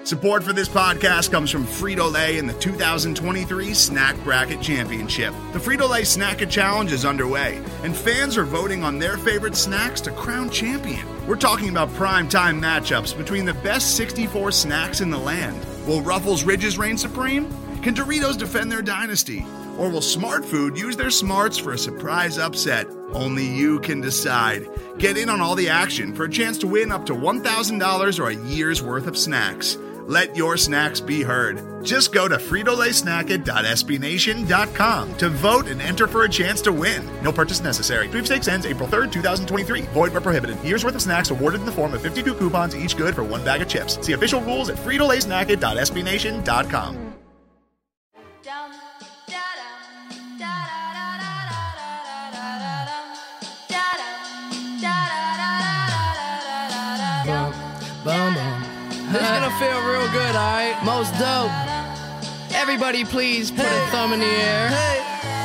Support for this podcast comes from Frito-Lay and the 2023 Snack Bracket Championship. The Frito-Lay Snack-It Challenge is underway, and fans are voting on their favorite snacks to crown champion. We're talking about prime-time matchups between the best 64 snacks in the land. Will Ruffles Ridges reign supreme? Can Doritos defend their dynasty? Or will Smart Food use their smarts for a surprise upset? Only you can decide. Get in on all the action for a chance to win up to $1,000 or a year's worth of snacks. Let your snacks be heard. Just go to fritolaysnacket.sbnation.com to vote and enter for a chance to win. No purchase necessary. Sweepstakes ends April 3rd, 2023. Void where prohibited. Year's worth of snacks awarded in the form of 52 coupons, each good for one bag of chips. See official rules at fritolaysnacket.sbnation.com. This is gonna feel real good, alright? Most dope. Everybody please put a thumb in the air. Hey.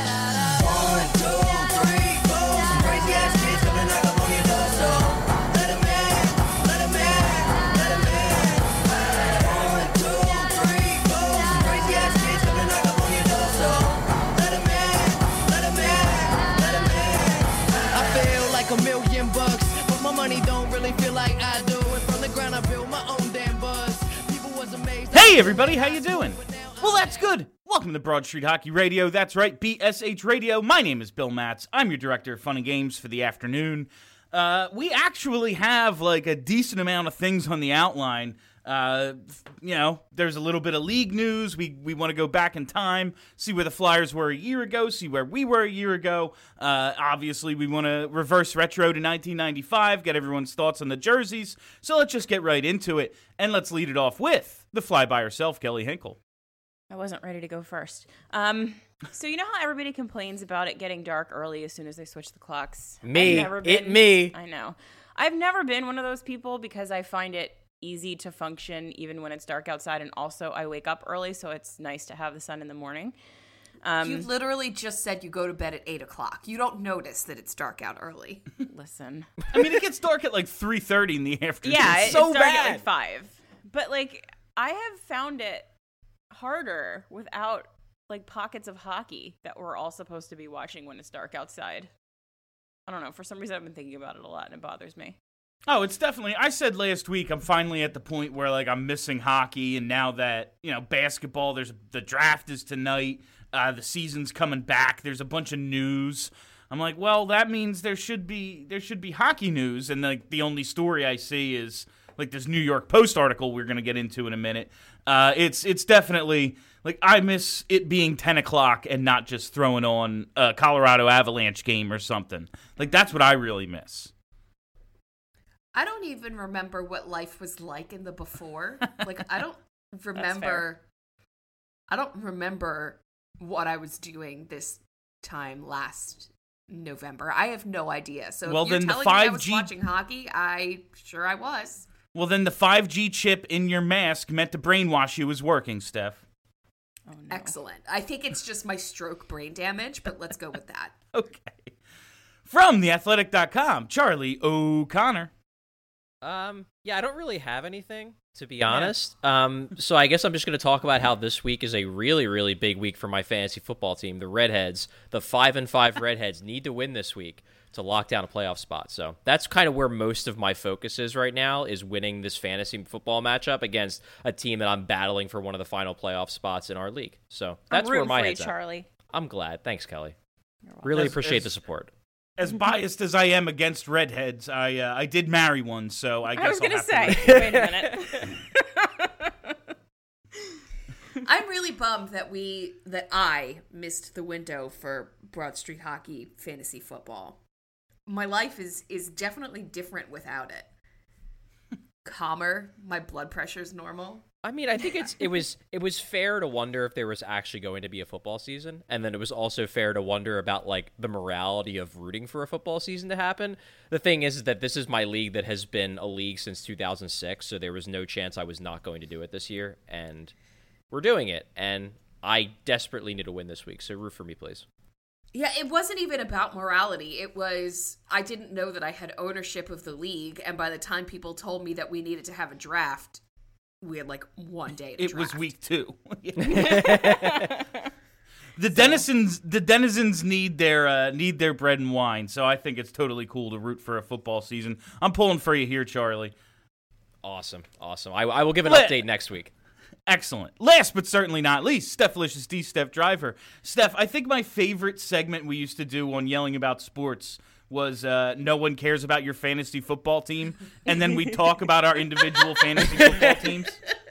1, 2, 3, 4. Some crazy ass kids coming knock up on your door, so let 'em in, let 'em in, let 'em in. 1, 2, 3, 4. Some crazy ass kids coming knock up on your door, so let 'em in, let 'em in, let 'em in. I feel like $1 million, but my money don't really feel like I do. And from the ground I build my own damn buzz. People was amazed. Hey everybody, how you doing? Well, that's good. Welcome to Broad Street Hockey Radio. That's right, BSH Radio. My name is Bill Matz. I'm your director of fun and games for the afternoon. We actually have like a decent amount of things on the outline. There's a little bit of league news. We want to go back in time, see where the Flyers were a year ago, see where we were a year ago. Obviously, we want to reverse retro to 1995, get everyone's thoughts on the jerseys. So let's just get right into it, and let's lead it off with the fly by herself, Kelly Hinkle. I wasn't ready to go first. So you know how everybody complains about it getting dark early as soon as they switch the clocks? Me. I know. I've never been one of those people because I find it easy to function even when it's dark outside, and also I wake up early, so it's nice to have the sun in the morning. You literally just said you go to bed at 8 o'clock. You don't notice that it's dark out early. Listen. I mean, it gets dark at like 3:30 in the afternoon. Yeah, it's so dark bad. at like 5. But like, I have found it harder without like pockets of hockey that we're all supposed to be watching when it's dark outside. I don't know. For some reason, I've been thinking about it a lot, and it bothers me. Oh, it's definitely, I said last week, I'm finally at the point where, like, I'm missing hockey, and now that, basketball, the draft is tonight, the season's coming back, there's a bunch of news. I'm like, well, that means there should be hockey news, and, like, the only story I see is, like, this New York Post article we're going to get into in a minute. It's definitely, like, I miss it being 10 o'clock and not just throwing on a Colorado Avalanche game or something. Like, that's what I really miss. I don't even remember what life was like in the before. Like, I don't remember what I was doing this time last November. I have no idea. So well, if you're then telling the 5G... me I was watching hockey, I was. Well, then the 5G chip in your mask meant to brainwash you was working, Steph. Oh, no. Excellent. I think it's just my stroke brain damage, but let's go with that. Okay. From theathletic.com, Charlie O'Connor. Yeah, I don't really have anything, to be honest. So I guess I'm just going to talk about how this week is a really, really big week for my fantasy football team. The Redheads, the 5-5 Redheads, need to win this week to lock down a playoff spot. So that's kind of where most of my focus is right now, is winning this fantasy football matchup against a team that I'm battling for one of the final playoff spots in our league. So that's where my head's at. Charlie. I'm glad. Thanks, Kelly. Really appreciate the support. As biased as I am against redheads, I did marry one, so I guess I was I'll going have to say, to wait a minute. I'm really bummed that I missed the window for Broad Street Hockey fantasy football. My life is definitely different without it. Calmer, my blood pressure's normal. I mean, I think it was fair to wonder if there was actually going to be a football season, and then it was also fair to wonder about like the morality of rooting for a football season to happen. The thing is that this is my league that has been a league since 2006, so there was no chance I was not going to do it this year, and we're doing it, and I desperately need to win this week, so root for me, please. Yeah, it wasn't even about morality. It was, I didn't know that I had ownership of the league, and by the time people told me that we needed to have a draft, we had like one day to It draft. was week 2. The denizens need their bread and wine, so I think it's totally cool to root for a football season. I'm pulling for you here, Charlie. Awesome. I will give an Let- update next week. Excellent. Last but certainly not least, Steph-licious D. Steph Driver. Steph, I think my favorite segment we used to do on Yelling About Sports was no one cares about your fantasy football team, and then we talk about our individual fantasy football teams.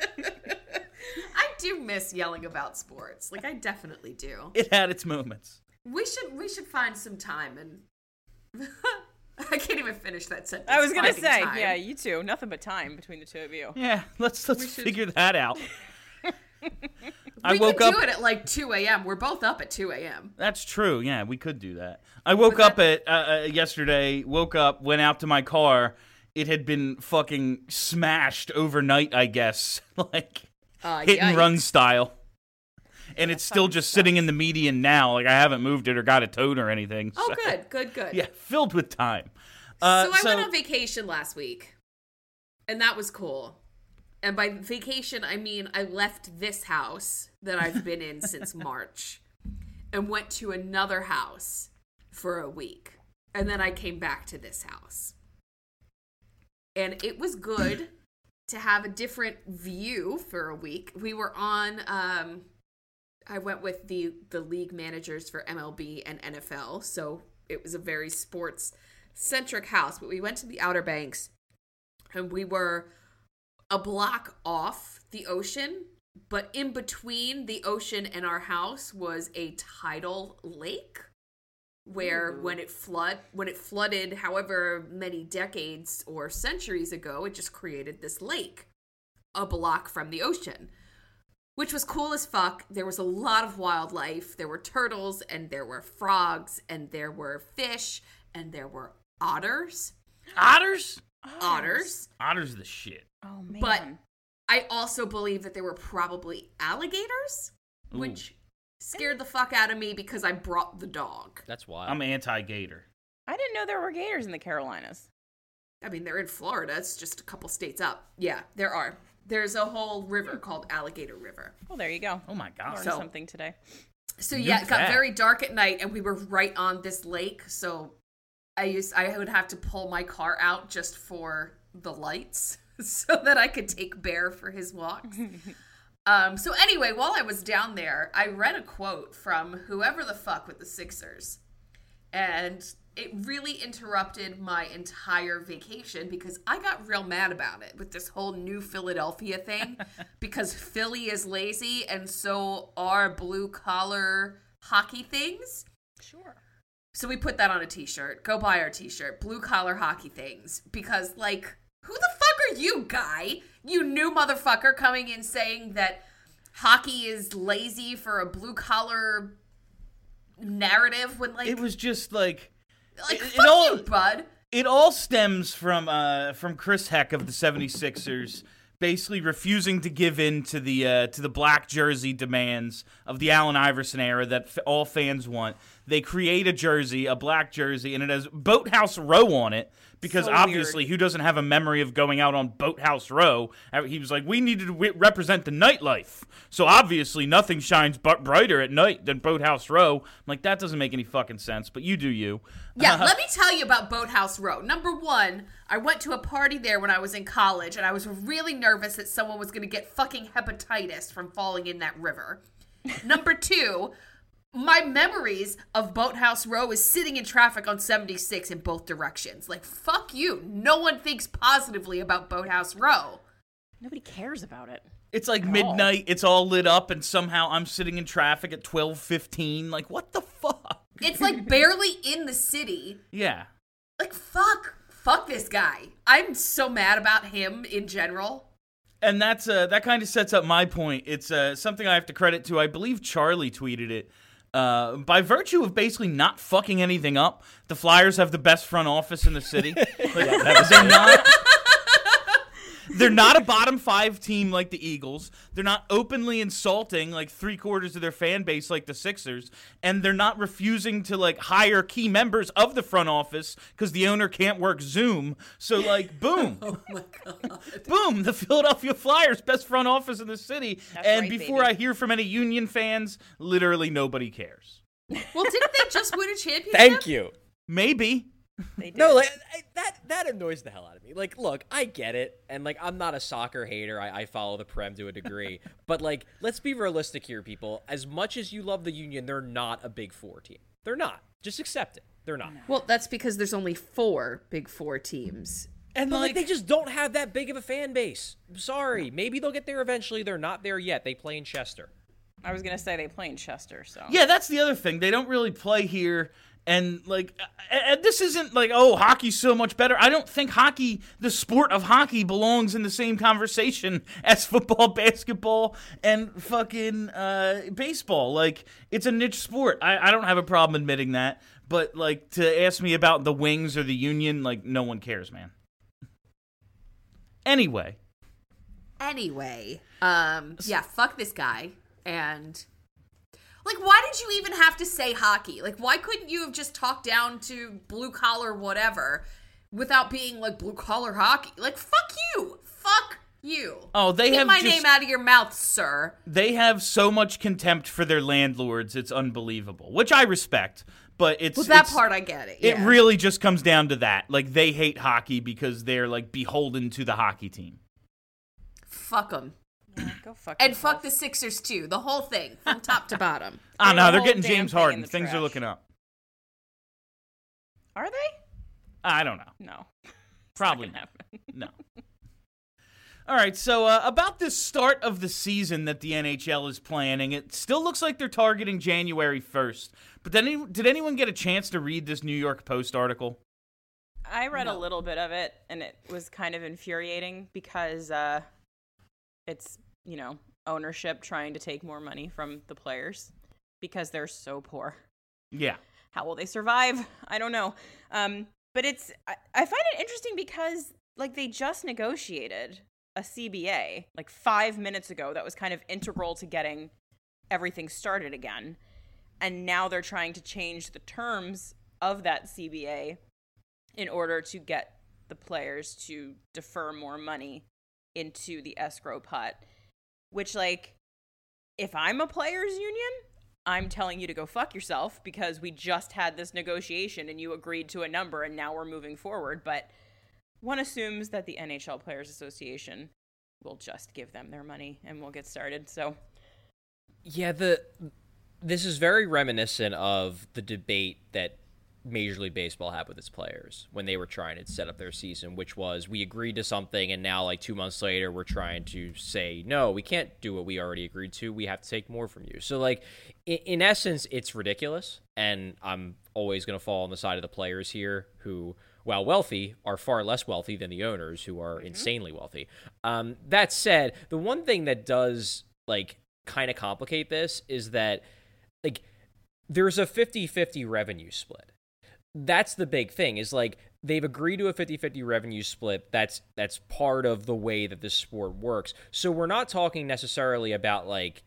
I do miss yelling about sports. Like I definitely do. It had its moments. We should find some time and I can't even finish that sentence. I was gonna Finding say, time. yeah, you two. Nothing but time between the two of you. Yeah, let's should- figure that out. I We woke could up. do it at like 2 a.m. We're both up at 2 a.m. That's true. Yeah, we could do that. I woke up at yesterday. Woke up, went out to my car. It had been fucking smashed overnight, I guess, like hit and run style. And it's still just sitting in the median now. Like I haven't moved it or got it towed or anything. Oh, so- good. Yeah, filled with time. So I went on vacation last week, and that was cool. And by vacation, I mean I left this house that I've been in since March and went to another house for a week. And then I came back to this house. And it was good to have a different view for a week. We were on, I went with the league managers for MLB and NFL. So it was a very sports-centric house. But we went to the Outer Banks, and we were a block off the ocean, but in between the ocean and our house was a tidal lake where when it flooded however many decades or centuries ago, it just created this lake a block from the ocean, which was cool as fuck. There was a lot of wildlife. There were turtles and there were frogs and there were fish and there were otters. Otters? Otters. Otters are the shit. Oh man. But I also believe that there were probably alligators, which scared the fuck out of me because I brought the dog. That's wild. I'm anti-gator. I didn't know there were gators in the Carolinas. I mean, they're in Florida. It's just a couple states up. Yeah, there are. There's a whole river called Alligator River. Well, there you go. Oh my god. Learned So- something today. So yeah, it got that. very dark at night, and we were right on this lake. So I would have to pull my car out just for the lights, so that I could take Bear for his walks. So anyway, while I was down there, I read a quote from whoever the fuck with the Sixers, and it really interrupted my entire vacation because I got real mad about it with this whole new Philadelphia thing because Philly is lazy and so are blue collar hockey things. Sure. So we put that on a t-shirt. Go buy our t-shirt. Blue collar hockey things. Because, like, who the fuck are you, guy? You new motherfucker coming in saying that hockey is lazy for a blue collar narrative when, like, It was just like fuck you, bud. it all stems from Chris Heck of the 76ers basically refusing to give in to the black jersey demands of the Allen Iverson era that all fans want. They create a jersey, a black jersey, and it has Boathouse Row on it because So obviously weird. who doesn't have a memory of going out on Boathouse Row? He was like, we needed to represent the nightlife. So obviously nothing shines brighter at night than Boathouse Row. I'm like, that doesn't make any fucking sense, but you do you. Yeah, let me tell you about Boathouse Row. Number one, I went to a party there when I was in college, and I was really nervous that someone was going to get fucking hepatitis from falling in that river. Number two, my memories of Boathouse Row is sitting in traffic on 76 in both directions. Like, fuck you. No one thinks positively about Boathouse Row. Nobody cares about it. It's like At all. midnight, it's all lit up, and somehow I'm sitting in traffic at 12:15. Like, what the fuck? It's like barely in the city. Yeah. Like, fuck this guy. I'm so mad about him in general. And that's that kind of sets up my point. It's something I have to credit to. I believe Charlie tweeted it. By virtue of basically not fucking anything up, the Flyers have the best front office in the city. Like, they're not. They're not a bottom 5 team like the Eagles. They're not openly insulting like 3/4 of their fan base like the Sixers, and they're not refusing to like hire key members of the front office because the owner can't work Zoom. So like, boom, Oh my god. boom, the Philadelphia Flyers, best front office in the city. That's and right, before baby. I hear from any Union fans, literally nobody cares. Well, didn't they just win a championship? Thank you. Maybe. They did. No, like that annoys the hell out of me. Like, look, I get it, and like I'm not a soccer hater. I follow the Prem to a degree, but like, let's be realistic here, people. As much as you love the Union, they're not a Big Four team. They're not. Just accept it. They're not. Well, that's because there's only 4 Big Four teams. And like, they just don't have that big of a fan base. I'm sorry. Maybe they'll get there eventually. They're not there yet. They play in Chester. I was gonna say they play in Chester, so Yeah, that's the other thing. They don't really play here. And, like, this isn't like, oh, hockey's so much better. I don't think hockey, the sport of hockey, belongs in the same conversation as football, basketball, and fucking baseball. Like, it's a niche sport. I don't have a problem admitting that. But, like, to ask me about the Wings or the Union, like, no one cares, man. Anyway. Yeah, fuck this guy. And, like, why did you even have to say hockey? Like, why couldn't you have just talked down to blue-collar whatever without being, like, blue-collar hockey? Like, fuck you. Fuck you. Oh, they Keep have my just- name out of your mouth, sir. They have so much contempt for their landlords, it's unbelievable, which I respect. But it's Well, that it's- part I get it. It Yeah. really just comes down to that. Like, they hate hockey because they're, like, beholden to the hockey team. Fuck them. go fuck And yourself. fuck the Sixers, too. The whole thing, from top to bottom. Ah, Throw no, the they're whole getting damn James thing in Harden. the Things are trash. looking up. Are they? I don't know. No. Probably Not not. gonna happen. No. All right, so about this start of the season that the NHL is planning, it still looks like they're targeting January 1st. But then, did anyone get a chance to read this New York Post article? I read a little bit of it, and it was kind of infuriating because it's, ownership trying to take more money from the players because they're so poor. Yeah. How will they survive? I don't know. But I find it interesting because, like, they just negotiated a CBA, like, 5 minutes ago that was kind of integral to getting everything started again. And now they're trying to change the terms of that CBA in order to get the players to defer more money into the escrow pot. Which, like, if I'm a players union, I'm telling you to go fuck yourself because we just had this negotiation and you agreed to a number and now we're moving forward. But one assumes that the NHL Players Association will just give them their money and we'll get started. So, Yeah, this is very reminiscent of the debate that Major League Baseball had with its players when they were trying to set up their season, which was we agreed to something and now like 2 months later we're trying to say, no, we can't do what we already agreed to. We have to take more from you. So like in essence, it's ridiculous. And I'm always going to fall on the side of the players here who, while wealthy, are far less wealthy than the owners who are insanely wealthy. That said, the one thing that does like kind of complicate this is that like there's a 50-50 revenue split. That's the big thing is like they've agreed to a 50-50 revenue split. That's part of the way that this sport works. So we're not talking necessarily about like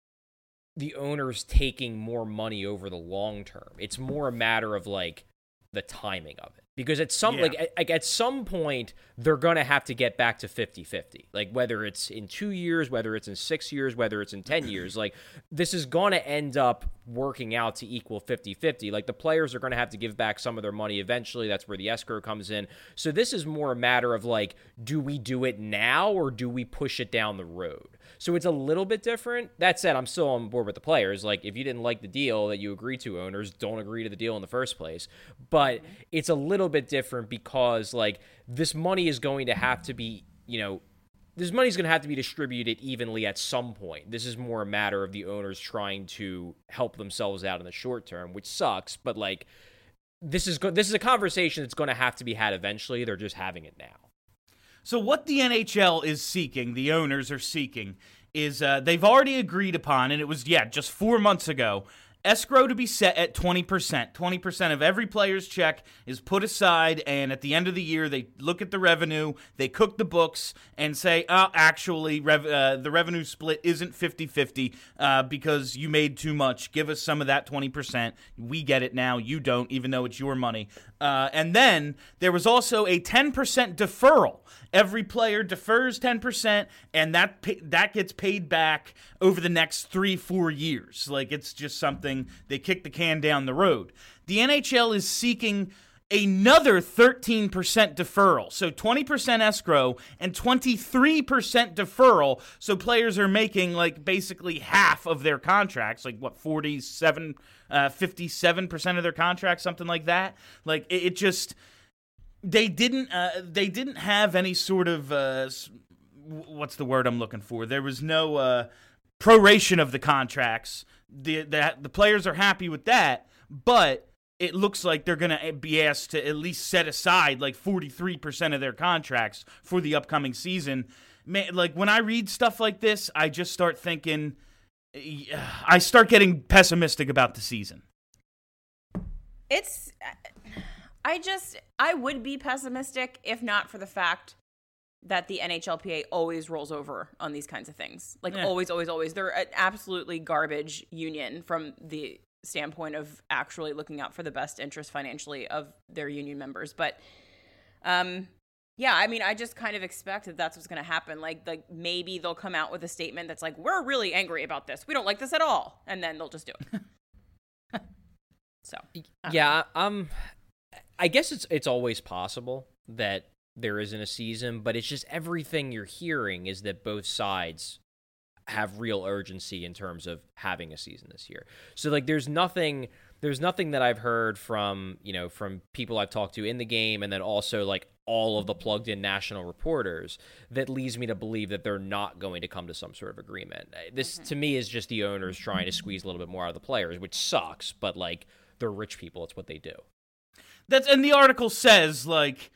the owners taking more money over the long term. It's more a matter of like the timing of it. Because at some at some point they're going to have to get back to 50-50. Like whether it's in 2 years, whether it's in 6 years, whether it's in 10 years, like this is going to end up working out to equal 50-50. Like the players are going to have to give back some of their money eventually. That's where the escrow comes in. So this is more a matter of like, do we do it now or do we push it down the road? So it's a little bit different. That said, I'm still on board with the players. Like if you didn't like the deal that you agreed to, owners don't agree to the deal in the first place. But it's a little bit different because like this money is going to have to be, this money is going to have to be distributed evenly at some point. This is more a matter of the owners trying to help themselves out in the short term, which sucks. But like, this is a conversation that's going to have to be had eventually. They're just having it now. So what the NHL is seeking, the owners are seeking, is they've already agreed upon, and it was, just 4 months ago, escrow to be set at 20%. 20% of every player's check is put aside, and at the end of the year, they look at the revenue, they cook the books, and say, actually, the revenue split isn't 50-50 because you made too much. Give us some of that 20%. We get it now. You don't, even though it's your money. And then there was also a 10% deferral. Every player defers 10%, and that gets paid back over the next 3-4 years. Like, it's just something they kick the can down the road. The NHL is seeking another 13% deferral. So 20% escrow and 23% deferral. So players are making like basically half of their contracts, like what, 57% of their contracts, something like that. Like it just, they didn't have any sort of, what's the word I'm looking for? There was no proration of the contracts. The players are happy with that, but it looks like they're going to be asked to at least set aside like 43% of their contracts for the upcoming season. Man, like when I read stuff like this, I just start thinking, I start getting pessimistic about the season. I would be pessimistic if not for the fact that the NHLPA always rolls over on these kinds of things. Like always. They're an absolutely garbage union from the standpoint of actually looking out for the best interest financially of their union members. But yeah, I mean, I just kind of expect that that's what's going to happen. Like maybe they'll come out with a statement that's like, we're really angry about this. We don't like this at all. And then they'll just do it. So yeah, I guess it's always possible that there isn't a season, but it's just everything you're hearing is that both sides have real urgency in terms of having a season this year. So like there's nothing that I've heard from people I've talked to in the game, and then also like all of the plugged in national reporters, that leads me to believe that they're not going to come to some sort of agreement. This to me is just the owners trying to squeeze a little bit more out of the players, which sucks, but like they're rich people, it's what they do. And the article says like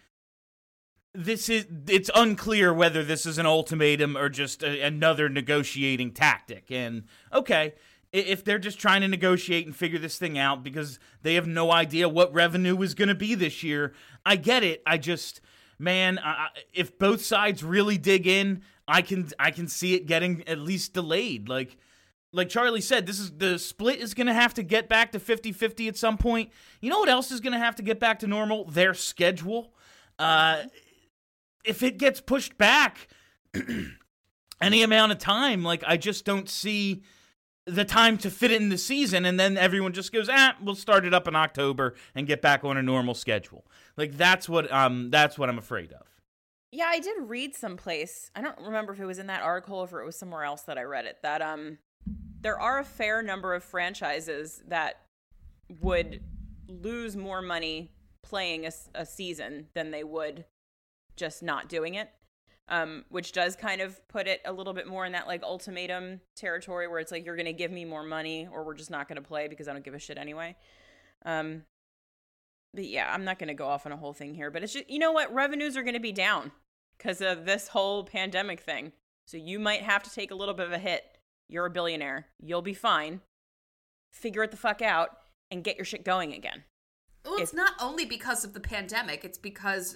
it's unclear whether this is an ultimatum or just another negotiating tactic. And okay, if they're just trying to negotiate and figure this thing out because they have no idea what revenue is going to be this year, I get it. I just, man, if both sides really dig in, I can see it getting at least delayed. Like Charlie said, the split is going to have to get back to 50-50 at some point. You know what else is going to have to get back to normal? Their schedule. If it gets pushed back any amount of time, like I just don't see the time to fit it in the season, and then everyone just goes, we'll start it up in October and get back on a normal schedule. Like that's what I'm afraid of. Yeah, I did read someplace. I don't remember if it was in that article or if it was somewhere else that I read it, that there are a fair number of franchises that would lose more money playing a season than they would just not doing it, which does kind of put it a little bit more in that like ultimatum territory where it's like, you're going to give me more money or we're just not going to play because I don't give a shit anyway. But yeah, I'm not going to go off on a whole thing here, but it's just, you know what? Revenues are going to be down because of this whole pandemic thing. So you might have to take a little bit of a hit. You're a billionaire. You'll be fine. Figure it the fuck out and get your shit going again. Well, it's not only because of the pandemic. It's because,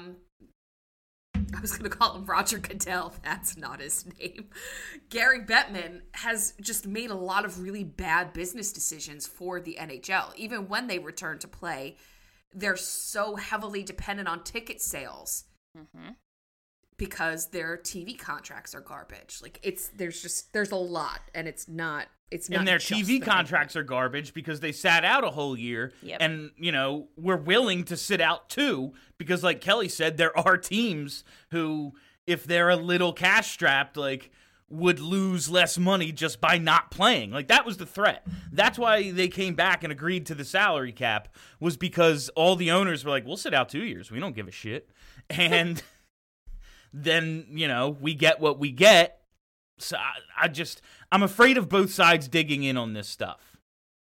I was going to call him Roger Goodell. That's not his name. Gary Bettman has just made a lot of really bad business decisions for the NHL. Even when they return to play, they're so heavily dependent on ticket sales because their TV contracts are garbage. Like there's a lot, and it's not. And their TV contracts are garbage because they sat out a whole year. Yep. And, we're willing to sit out too because, like Kelly said, there are teams who, if they're a little cash strapped, like, would lose less money just by not playing. Like, that was the threat. That's why they came back and agreed to the salary cap, was because all the owners were like, we'll sit out 2 years. We don't give a shit. And then, we get what we get. So I'm afraid of both sides digging in on this stuff.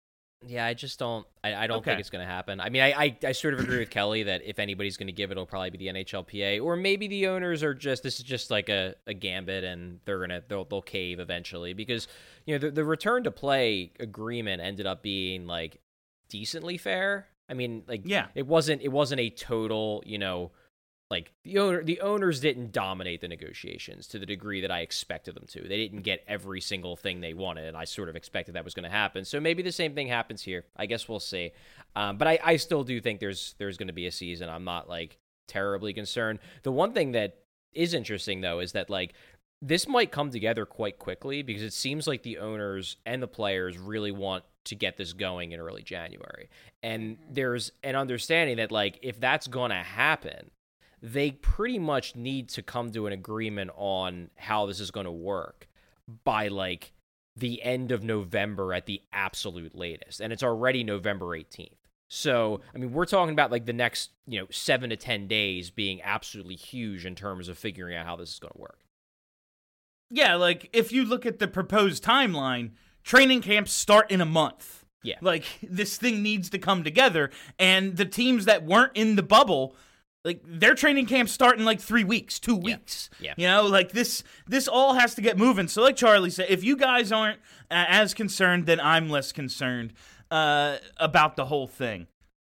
Yeah, I just don't. I don't Okay. think it's going to happen. I mean, I sort of agree with Kelly that if anybody's going to give it, it'll probably be the NHLPA, or maybe the owners are just this is just like a gambit, and they'll cave eventually because the return to play agreement ended up being like decently fair. I mean, like it wasn't a total like the owners didn't dominate the negotiations to the degree that I expected them to. They didn't get every single thing they wanted, and I sort of expected that was going to happen. So maybe the same thing happens here. I guess we'll see. But I still do think there's going to be a season. I'm not like terribly concerned. The one thing that is interesting though is that like this might come together quite quickly because it seems like the owners and the players really want to get this going in early January. And there's an understanding that like if that's going to happen, they pretty much need to come to an agreement on how this is going to work by like the end of November at the absolute latest. And it's already November 18th. So, I mean, we're talking about like the next, 7 to 10 days being absolutely huge in terms of figuring out how this is going to work. Yeah, like if you look at the proposed timeline, training camps start in a month. Yeah. Like this thing needs to come together, and the teams that weren't in the bubble, like their training camps start in like 3 weeks, 2 weeks. Yeah. Like this all has to get moving. So like Charlie said, if you guys aren't as concerned, then I'm less concerned about the whole thing.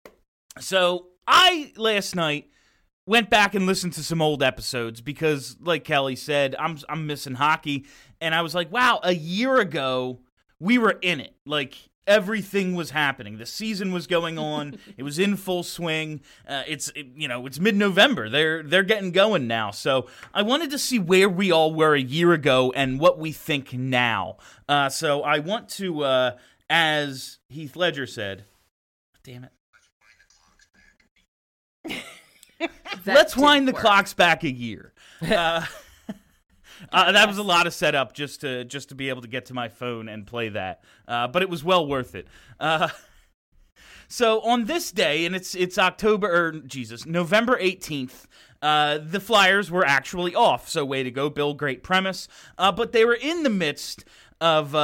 So I last night went back and listened to some old episodes because, like Kelly said, I'm missing hockey, and I was like, wow, a year ago we were in it. Like everything was happening. The season was going on. It was in full swing. It's mid-November. They're getting going now. So I wanted to see where we all were a year ago and what we think now. So I want to, as Heath Ledger said, damn it. Let's wind the clocks back a year. That was a lot of setup just to be able to get to my phone and play that. But it was well worth it. So on this day, and it's November 18th, the Flyers were actually off. So way to go, Bill. Great premise. But they were in the midst of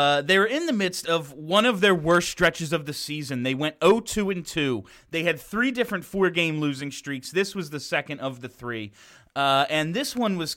one of their worst stretches of the season. They went 0-2-2. They had 3 different 4-game losing streaks. This was the second of the 3. And this one was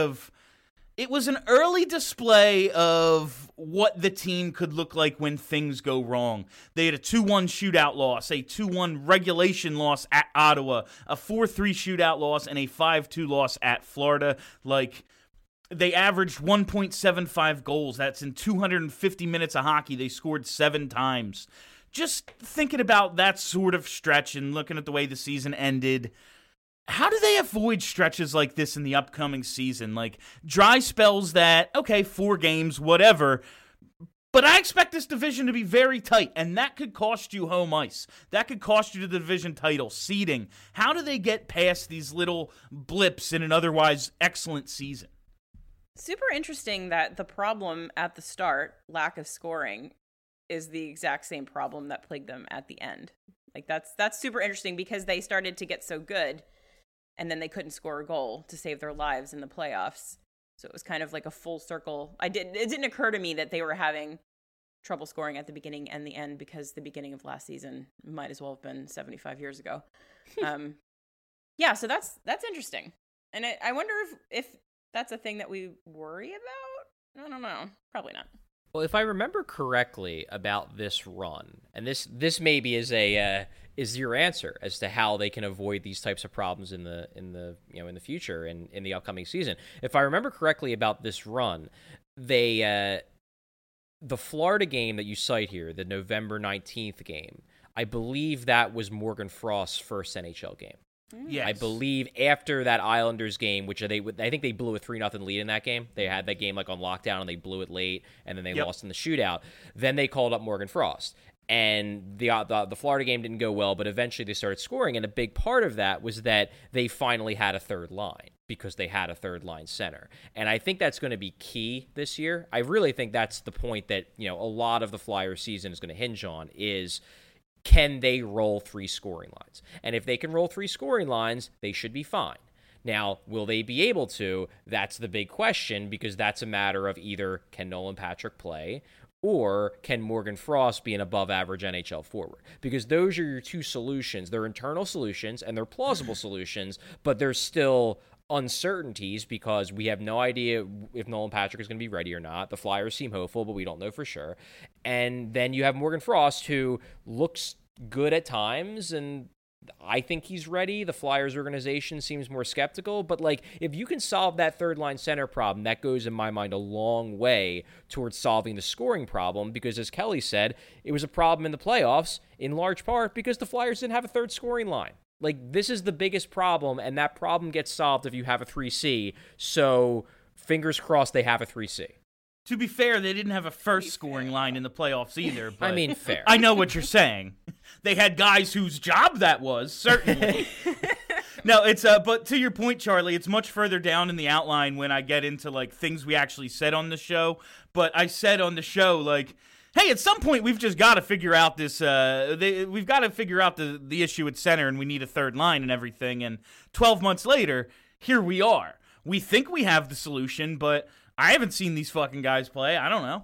it was an early display of what the team could look like when things go wrong. They had a 2-1 shootout loss, a 2-1 regulation loss at Ottawa, a 4-3 shootout loss, and a 5-2 loss at Florida. Like, they averaged 1.75 goals. That's in 250 minutes of hockey. They scored 7 times. Just thinking about that sort of stretch and looking at the way the season ended, how do they avoid stretches like this in the upcoming season? Like dry spells that, okay, 4 games, whatever. But I expect this division to be very tight, and that could cost you home ice. That could cost you the division title, seeding. How do they get past these little blips in an otherwise excellent season? Super interesting that the problem at the start, lack of scoring, is the exact same problem that plagued them at the end. Like that's super interesting because they started to get so good and then they couldn't score a goal to save their lives in the playoffs. So it was kind of like a full circle. It didn't occur to me that they were having trouble scoring at the beginning and the end because the beginning of last season might as well have been 75 years ago. Yeah, so that's interesting. And I wonder if that's a thing that we worry about? I don't know. Probably not. Well, if I remember correctly about this run, and this maybe is your answer as to how they can avoid these types of problems in the future and in the upcoming season. If I remember correctly about this run, the Florida game that you cite here, the November 19th game, I believe that was Morgan Frost's first NHL game. Yes. I believe after that Islanders game, which I think they blew a 3-0 lead in that game. They had that game like on lockdown and they blew it late, and then they lost in the shootout. Then they called up Morgan Frost, and the Florida game didn't go well, but eventually they started scoring, and a big part of that was that they finally had a third line because they had a third line center, and I think that's going to be key this year. I really think that's the point that a lot of the Flyers season is going to hinge on is, can they roll 3 scoring lines? And if they can roll 3 scoring lines, they should be fine. Now, will they be able to? That's the big question, because that's a matter of either can Nolan Patrick play, or can Morgan Frost be an above-average NHL forward? Because those are your two solutions. They're internal solutions, and they're plausible solutions, but there's still uncertainties because we have no idea if Nolan Patrick is going to be ready or not. The Flyers seem hopeful, but we don't know for sure. And then you have Morgan Frost, who looks good at times, and I think he's ready. The Flyers organization seems more skeptical, but like if you can solve that third line center problem, that goes in my mind a long way towards solving the scoring problem, because as Kelly said, it was a problem in the playoffs in large part because the Flyers didn't have a third scoring line. Like, this is the biggest problem, and that problem gets solved if you have a 3C. So, fingers crossed they have a 3C. To be fair, they didn't have a first scoring line in the playoffs either. But I mean, fair. I know what you're saying. They had guys whose job that was, certainly. No, it's but to your point, Charlie, it's much further down in the outline when I get into like things we actually said on the show. But I said on the show, like, hey, at some point we've just got to figure out this. We've got to figure out the issue at center, and we need a third line and everything. And 12 months later, here we are. We think we have the solution, but I haven't seen these fucking guys play. I don't know.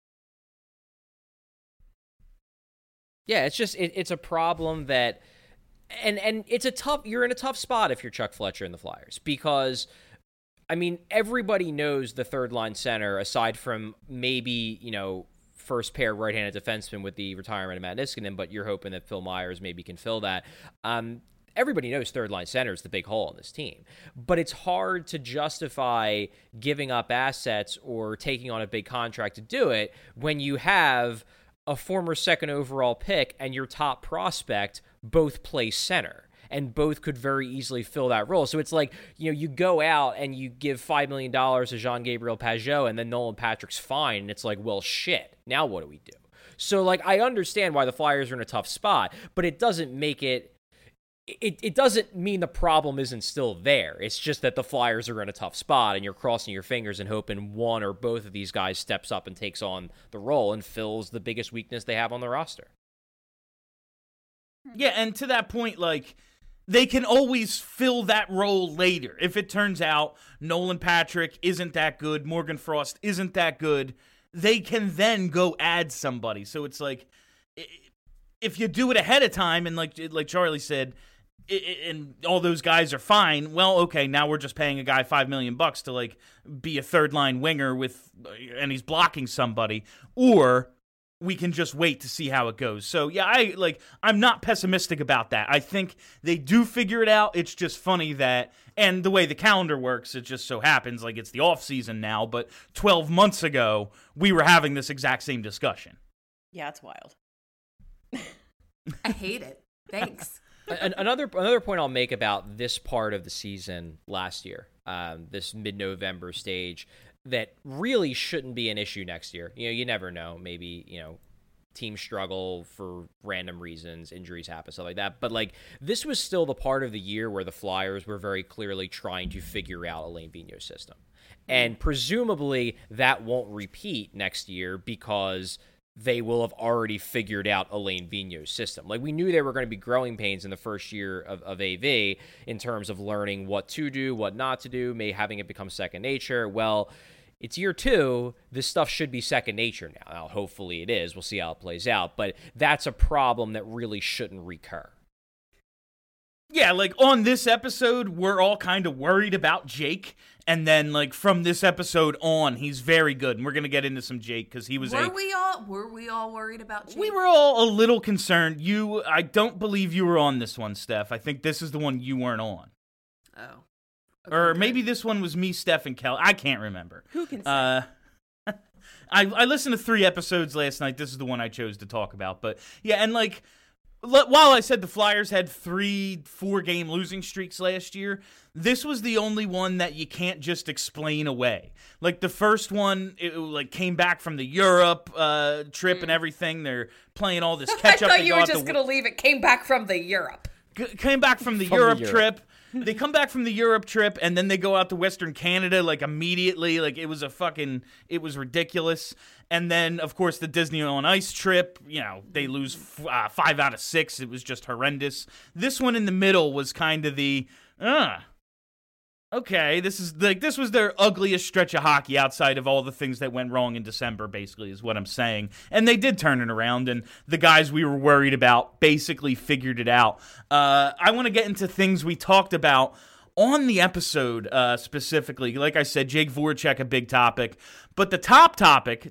Yeah, it's just it's a problem that, and it's a tough. You're in a tough spot if you're Chuck Fletcher and the Flyers, because I mean everybody knows the third line center aside from maybe first pair right-handed defenseman with the retirement of Matt Niskanen, but you're hoping that Phil Myers maybe can fill that. Everybody knows third-line center is the big hole in this team, but it's hard to justify giving up assets or taking on a big contract to do it when you have a former second overall pick and your top prospect both play center, and both could very easily fill that role. So it's like, you go out and you give $5 million to Jean-Gabriel Pageau, and then Nolan Patrick's fine, and it's like, well, shit, now what do we do? So, like, I understand why the Flyers are in a tough spot, but it doesn't make it doesn't mean the problem isn't still there. It's just that the Flyers are in a tough spot, and you're crossing your fingers and hoping one or both of these guys steps up and takes on the role and fills the biggest weakness they have on the roster. Yeah, and to that point, like, they can always fill that role later. If it turns out Nolan Patrick isn't that good, Morgan Frost isn't that good, they can then go add somebody. So it's like, if you do it ahead of time, and like Charlie said, and all those guys are fine, well, okay, now we're just paying a guy $5 million to like be a third line winger and he's blocking somebody, or we can just wait to see how it goes. So yeah, I'm not pessimistic about that. I think they do figure it out. It's just funny that, and the way the calendar works, it just so happens like it's the off season now, but 12 months ago we were having this exact same discussion. Yeah, it's wild. I hate it. Thanks. Another point I'll make about this part of the season last year, this mid-November stage, that really shouldn't be an issue next year. You never know. Maybe, teams struggle for random reasons, injuries happen, stuff like that. But, like, this was still the part of the year where the Flyers were very clearly trying to figure out Alain Vigneault's system. And presumably that won't repeat next year because they will have already figured out Alain Vigneault's system. Like, we knew there were going to be growing pains in the first year of AV in terms of learning what to do, what not to do, having it become second nature. Well, it's year 2. This stuff should be second nature now. Now, hopefully it is. We'll see how it plays out. But that's a problem that really shouldn't recur. Yeah, like, on this episode, we're all kind of worried about Jake. And then, like, from this episode on, he's very good. And we're going to get into some Jake because he was Were we all worried about Jake? We were all a little concerned. I don't believe you were on this one, Steph. I think this is the one you weren't on. Oh. Okay, Or good. maybe this one was me, Steph, and Kelly. I can't remember. Who can say? I listened to 3 episodes last night. This is the one I chose to talk about. But, yeah, and, like, while I said the Flyers had 3 4-game losing streaks last year, this was the only one that you can't just explain away. Like, the first one, it came back from the Europe trip and everything. They're playing all this catch-up. I thought you were just going to leave it. Came back from the Europe. Came back from the Europe trip. They come back from the Europe trip, and then they go out to Western Canada, like, immediately. Like, it was ridiculous. And then, of course, the Disney on Ice trip, they lose 5 out of 6. It was just horrendous. This one in the middle was kind of the, okay, this was their ugliest stretch of hockey outside of all the things that went wrong in December, basically, is what I'm saying. And they did turn it around, and the guys we were worried about basically figured it out. I want to get into things we talked about on the episode specifically. Like I said, Jake Voracek, a big topic. But the top topic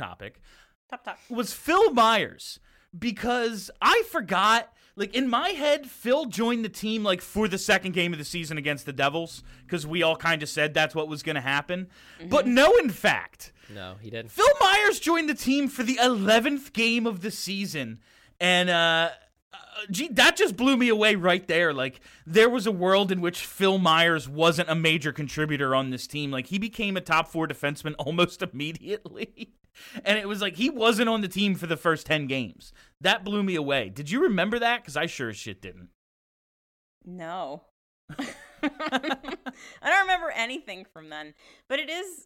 was Phil Myers, because I forgot. Like, in my head, Phil joined the team, like, for the second game of the season against the Devils, because we all kind of said that's what was going to happen. Mm-hmm. But no, in fact. No, he didn't. Phil Myers joined the team for the 11th game of the season. And, that just blew me away right there. Like, there was a world in which Phil Myers wasn't a major contributor on this team. Like, he became a top 4 defenseman almost immediately. And it was like he wasn't on the team for the first 10 games. That blew me away. Did you remember that? Because I sure as shit didn't. No. I don't remember anything from then. But it is...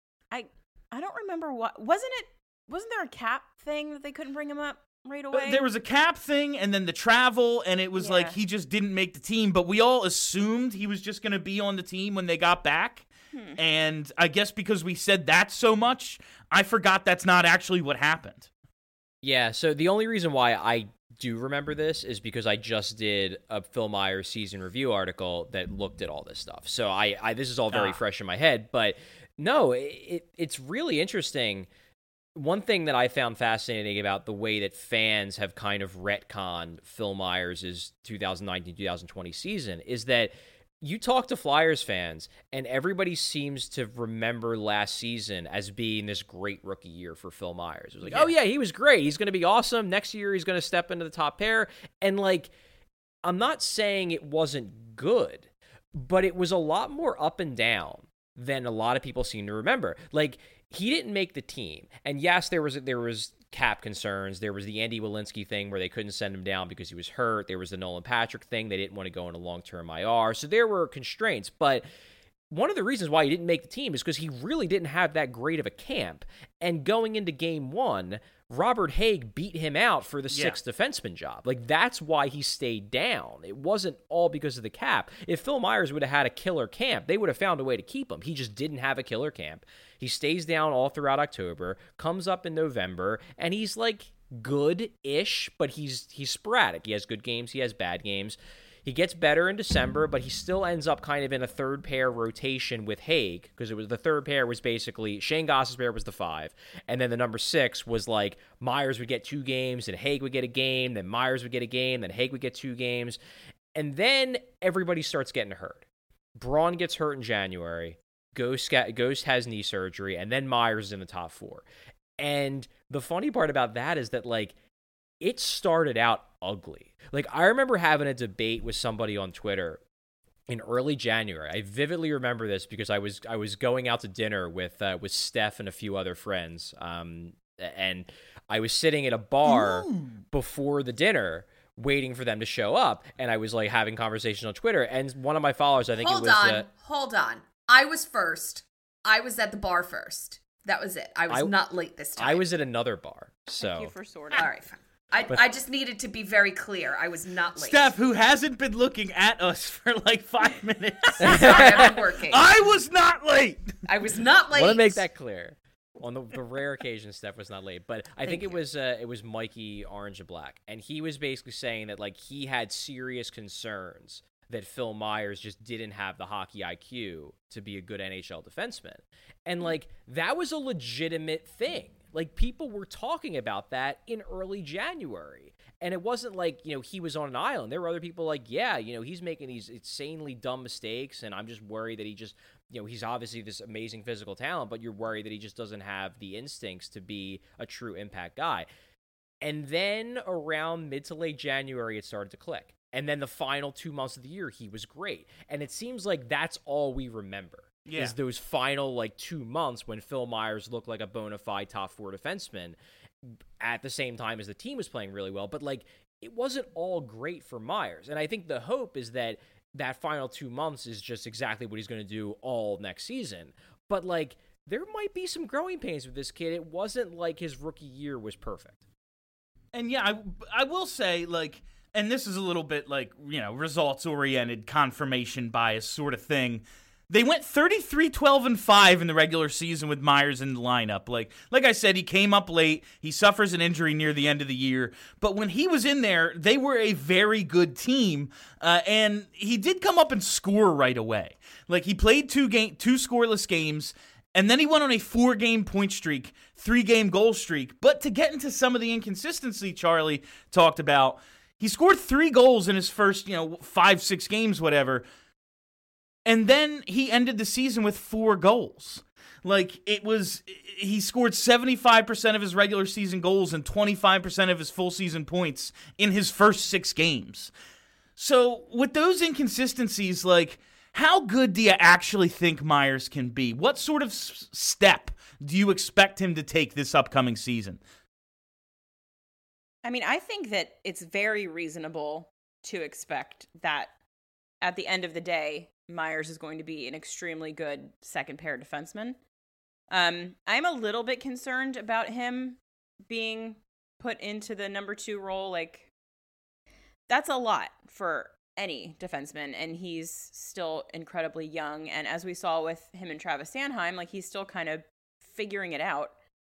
I don't remember what... Wasn't there a cap thing that they couldn't bring him up right away? There was a cap thing and then the travel, and it was like he just didn't make the team. But we all assumed he was just going to be on the team when they got back. And I guess because we said that so much, I forgot that's not actually what happened. Yeah, so the only reason why I do remember this is because I just did a Phil Myers season review article that looked at all this stuff. So I this is all very fresh in my head. But no, it's really interesting. One thing that I found fascinating about the way that fans have kind of retconned Phil Myers' 2019-2020 season is that you talk to Flyers fans, and everybody seems to remember last season as being this great rookie year for Phil Myers. It was like, oh, yeah, he was great. He's going to be awesome. Next year, he's going to step into the top pair. And, like, I'm not saying it wasn't good, but it was a lot more up and down than a lot of people seem to remember. Like, he didn't make the team. And, yes, there was cap concerns. There was the Andy Welinski thing where they couldn't send him down because he was hurt. There was the Nolan Patrick thing. They didn't want to go into long-term IR. So there were constraints. But one of the reasons why he didn't make the team is because he really didn't have that great of a camp. And going into game 1, Robert Haig beat him out for the sixth defenseman job. Like, that's why he stayed down. It wasn't all because of the cap. If Phil Myers would have had a killer camp, they would have found a way to keep him. He just didn't have a killer camp. He stays down all throughout October, comes up in November, and he's, like, good-ish, but he's sporadic. He has good games, he has bad games. He gets better in December, but he still ends up kind of in a third pair rotation with Haig, because it was the third pair was basically Shane Goss's pair was the 5, and then the number 6 was like Myers would get 2 games, and Haig would get a game, then Myers would get a game, then Haig would get 2 games, and then everybody starts getting hurt. Braun gets hurt in January, Ghost has knee surgery, and then Myers is in the top 4. And the funny part about that is that, like, it started out ugly. Like, I remember having a debate with somebody on Twitter in early January. I vividly remember this because I was going out to dinner with Steph and a few other friends, and I was sitting at a bar before the dinner waiting for them to show up, and I was, like, having conversations on Twitter, and one of my followers, I think Hold on. I was first. I was at the bar first. That was it. I was not late this time. I was at another bar. So Thank you for sorting. All right, fine. I just needed to be very clear. I was not late. Steph, who hasn't been looking at us for like 5 minutes. Sorry, I've been working. I was not late. I was not late. I want to make that clear. On the rare occasion, Steph was not late, but I think it was Mikey Orange and Black, and he was basically saying that, like, he had serious concerns that Phil Myers just didn't have the hockey IQ to be a good NHL defenseman, and, like, that was a legitimate thing. Like, people were talking about that in early January. And it wasn't like, you know, he was on an island. There were other people like, yeah, you know, he's making these insanely dumb mistakes, and I'm just worried that he just, you know, he's obviously this amazing physical talent, but you're worried that he just doesn't have the instincts to be a true impact guy. And then around mid to late January, it started to click. And then the final 2 months of the year, he was great. And it seems like that's all we remember. Yeah. Is those final, like, 2 months when Phil Myers looked like a bona fide top 4 defenseman at the same time as the team was playing really well. But, like, it wasn't all great for Myers. And I think the hope is that that final 2 months is just exactly what he's going to do all next season. But, like, there might be some growing pains with this kid. It wasn't like his rookie year was perfect. And, yeah, I will say, like, and this is a little bit, like, you know, results-oriented confirmation bias sort of thing. They went 33-12-5 in the regular season with Myers in the lineup. Like I said, he came up late. He suffers an injury near the end of the year. But when he was in there, they were a very good team. And he did come up and score right away. Like, he played two scoreless games, and then he went on a 4-game point streak, 3-game goal streak. But to get into some of the inconsistency Charlie talked about, he scored 3 goals in his first, 5-6 games, whatever. And then he ended the season with 4 goals. He scored 75% of his regular season goals and 25% of his full season points in his first 6 games. So with those inconsistencies, how good do you actually think Myers can be? What sort of step do you expect him to take this upcoming season? I mean, I think that it's very reasonable to expect that at the end of the day, Myers is going to be an extremely good second pair defenseman. I'm a little bit concerned about him being put into the number 2 role. That's a lot for any defenseman, and he's still incredibly young. And as we saw with him and Travis Sanheim, he's still kind of figuring it out.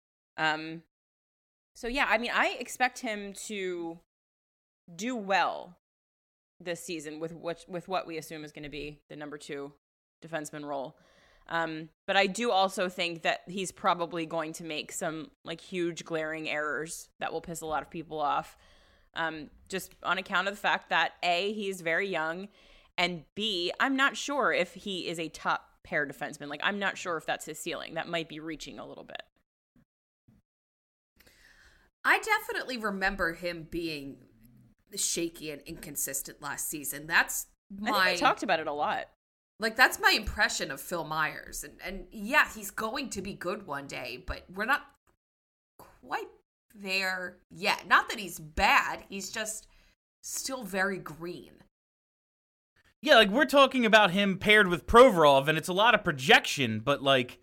So yeah, I mean, I expect him to do well this season with what we assume is going to be the number 2 defenseman role. But I do also think that he's probably going to make some huge glaring errors that will piss a lot of people off. Just on account of the fact that A, he's very young, and B, I'm not sure if he is a top pair defenseman. I'm not sure if that's his ceiling. That might be reaching a little bit. I definitely remember him being shaky and inconsistent last season. I think we talked about it a lot. That's my impression of Phil Myers. And yeah, he's going to be good one day, but we're not quite there yet. Not that he's bad, he's just still very green. Yeah, we're talking about him paired with Provorov, and it's a lot of projection, but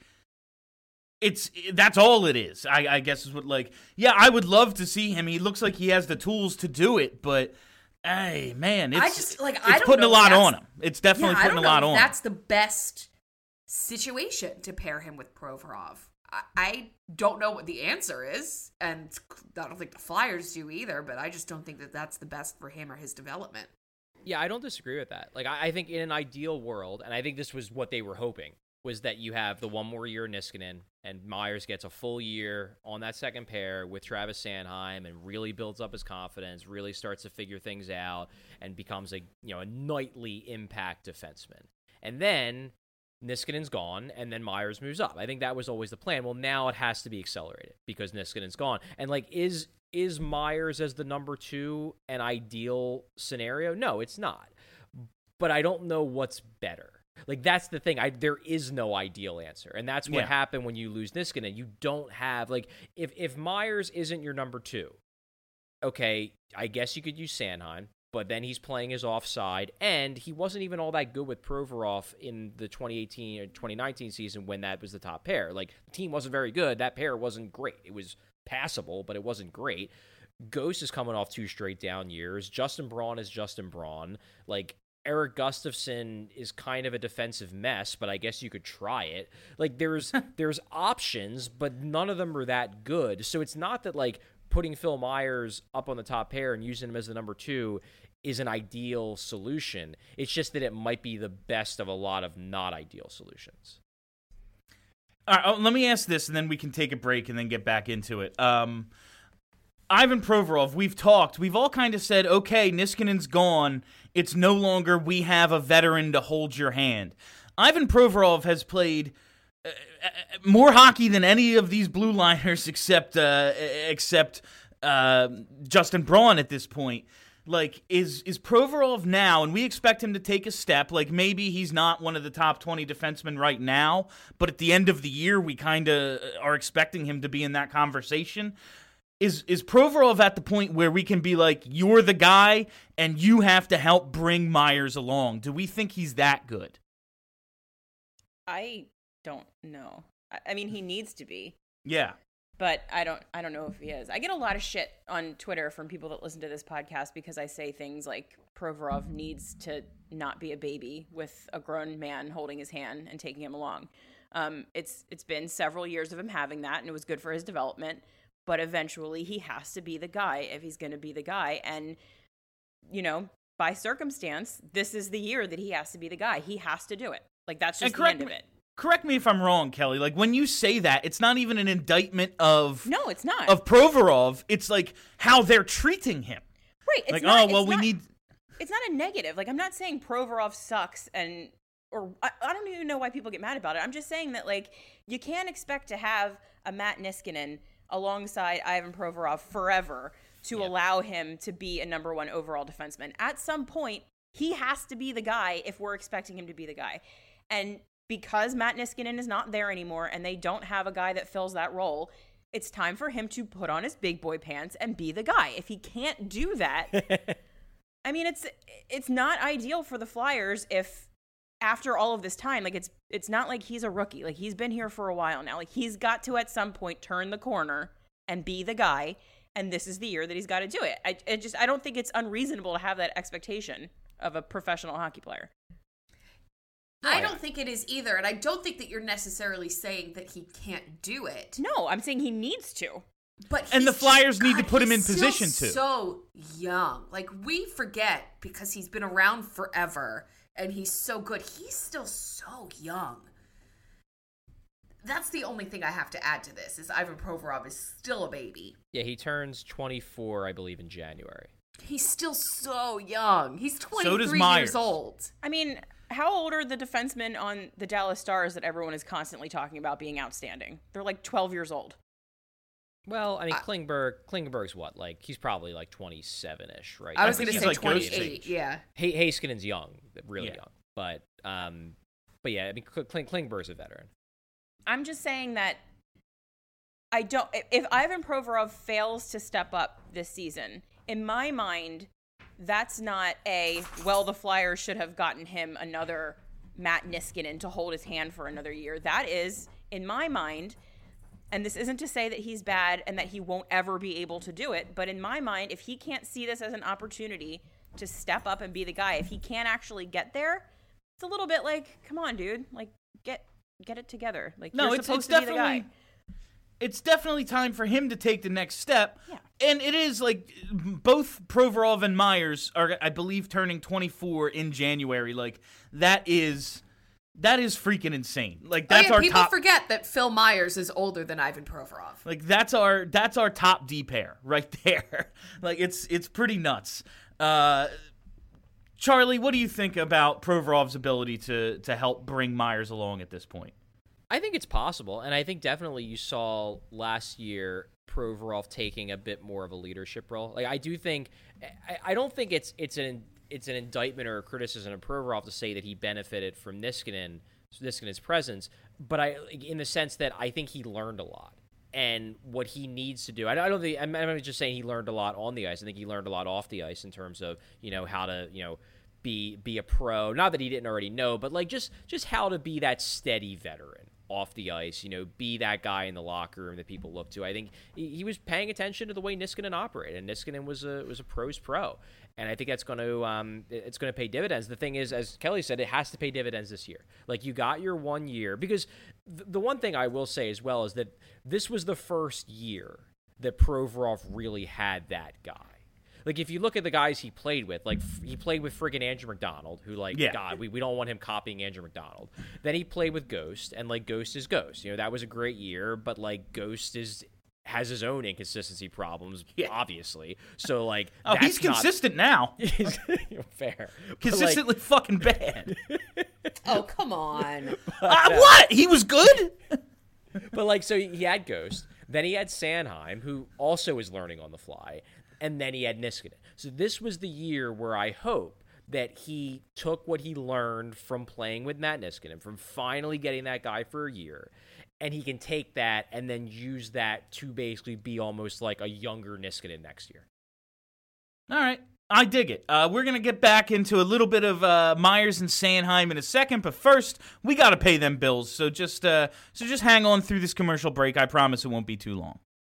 that's all it is. I guess is what I would love to see him. He looks like he has the tools to do it, but hey, man, it's putting a lot on him. It's definitely putting a lot on him. That's the best situation to pair him with Provorov. I don't know what the answer is, and I don't think the Flyers do either, but I just don't think that that's the best for him or his development. Yeah, I don't disagree with that. I think in an ideal world, and I think this was what they were hoping, was that you have the 1 more year Niskanen, and Myers gets a full year on that second pair with Travis Sanheim and really builds up his confidence, really starts to figure things out, and becomes a nightly impact defenseman. And then Niskanen's gone, and then Myers moves up. I think that was always the plan. Well, now it has to be accelerated because Niskanen's gone. And is Myers as the number 2 an ideal scenario? No, it's not. But I don't know what's better. That's the thing. There is no ideal answer. And that's what happened when you lose Niskanen. You don't have, if Myers isn't your number 2, okay, I guess you could use Sanheim, but then he's playing his offside, and he wasn't even all that good with Provorov in the 2018 or 2019 season when that was the top pair. The team wasn't very good. That pair wasn't great. It was passable, but it wasn't great. Ghost is coming off 2 straight down years. Justin Braun is Justin Braun. Eric Gustafsson is kind of a defensive mess, but I guess you could try it. There's options, but none of them are that good. So it's not that putting Phil Myers up on the top pair and using him as the number 2 is an ideal solution. It's just that it might be the best of a lot of not ideal solutions. All right, let me ask this, and then we can take a break and then get back into it. Ivan Provorov, we've all kind of said, okay, Niskanen's gone. It's no longer we have a veteran to hold your hand. Ivan Provorov has played more hockey than any of these blue liners except Justin Braun at this point. Is Provorov now, and we expect him to take a step, maybe he's not one of the top 20 defensemen right now, but at the end of the year, we kind of are expecting him to be in that conversation. Is Provorov at the point where we can be you're the guy and you have to help bring Myers along? Do we think he's that good? I don't know. I mean, he needs to be. Yeah. but I don't know if he is. I get a lot of shit on Twitter from people that listen to this podcast because I say things like Provorov needs to not be a baby with a grown man holding his hand and taking him along. It's been several years of him having that, and it was good for his development. But eventually, he has to be the guy if he's going to be the guy. And by circumstance, this is the year that he has to be the guy. He has to do it. Like, that's just the end of it. Correct me if I'm wrong, Kelly. Like, when you say that, it's not even an indictment of... No, it's not. ...of Provorov. It's, like, how they're treating him. Right. It's like, not, we need... It's not a negative. Like, I'm not saying Provorov sucks or I don't even know why people get mad about it. I'm just saying that, like, you can't expect to have a Matt Niskanen alongside Ivan Provorov forever to allow him to be a number one overall defenseman. At some point, he has to be the guy if we're expecting him to be the guy. And because Matt Niskanen is not there anymore and they don't have a guy that fills that role, it's time for him to put on his big boy pants and be the guy. If he can't do that, I mean, it's not ideal for the Flyers if after all of this time, like it's not like he's a rookie. Like, he's been here for a while now. Like, he's got to at some point turn the corner and be the guy. And this is the year that he's got to do it. I don't think it's unreasonable to have that expectation of a professional hockey player. I don't think it is either, and I don't think that you're necessarily saying that he can't do it. No, I'm saying he needs to. And the Flyers need to put him in position to. He's so young. Like, we forget because he's been around forever and he's so good. He's still so young. That's the only thing I have to add to this, is Ivan Provorov is still a baby. Yeah, he turns 24, I believe, in January. He's still so young. He's 23 So does Myers. years old. I mean, how old are the defensemen on the Dallas Stars that everyone is constantly talking about being outstanding? They're like 12 years old. Well, I mean, Klingberg's what? Like, he's probably like 27-ish, right? I was going to he's say like 28, yeah. Heiskanen's young, really young. But yeah, I mean, Klingberg's a veteran. I'm just saying that if Ivan Provorov fails to step up this season, in my mind, that's not the Flyers should have gotten him another Matt Niskanen to hold his hand for another year. That is, in my mind, and this isn't to say that he's bad and that he won't ever be able to do it, but in my mind, if he can't see this as an opportunity to step up and be the guy, if he can't actually get there, it's a little bit like, come on, dude, like, get it together. Like, no, you're supposed to be the guy. It's definitely time for him to take the next step. Yeah. And it is like both Provorov and Myers are, I believe, turning 24 in January. Like, that is freaking insane. Like, that's our people top. forget that Phil Myers is older than Ivan Provorov. Like, that's our top D pair right there. Like, it's pretty nuts. Charlie, what do you think about Provorov's ability to help bring Myers along at this point? I think it's possible, and I think definitely you saw last year Provorov taking a bit more of a leadership role. Like, I do think, I don't think it's an indictment or a criticism of Provorov to say that he benefited from Niskanen's presence, but in the sense that I think he learned a lot. And what he needs to do, I'm not just saying he learned a lot on the ice. I think he learned a lot off the ice in terms of, how to, be a pro. Not that he didn't already know, but like just how to be that steady veteran off the ice, be that guy in the locker room that people look to. I think he was paying attention to the way Niskanen operated, and Niskanen was a pro's pro. And I think that's going to pay dividends. The thing is, as Kelly said, it has to pay dividends this year. Like, you got your 1 year, because the one thing I will say as well is that this was the first year that Provorov really had that guy. Like, if you look at the guys he played with, like, he played with friggin' Andrew McDonald, who, like, God, we don't want him copying Andrew McDonald. Then he played with Ghost, and, like, Ghost is Ghost. That was a great year, but, like, Ghost has his own inconsistency problems, obviously. So, like, he's consistent now. Fair. Consistently fucking bad. Oh, come on. What? He was good? But, like, so he had Ghost. Then he had Sanheim, who also is learning on the fly. And then he had Niskanen. So this was the year where I hope that he took what he learned from playing with Matt Niskanen, from finally getting that guy for a year, and he can take that and then use that to basically be almost like a younger Niskanen next year. All right. I dig it. We're going to get back into a little bit of Myers and Sanheim in a second, but first, we got to pay them bills. So just hang on through this commercial break. I promise it won't be too long.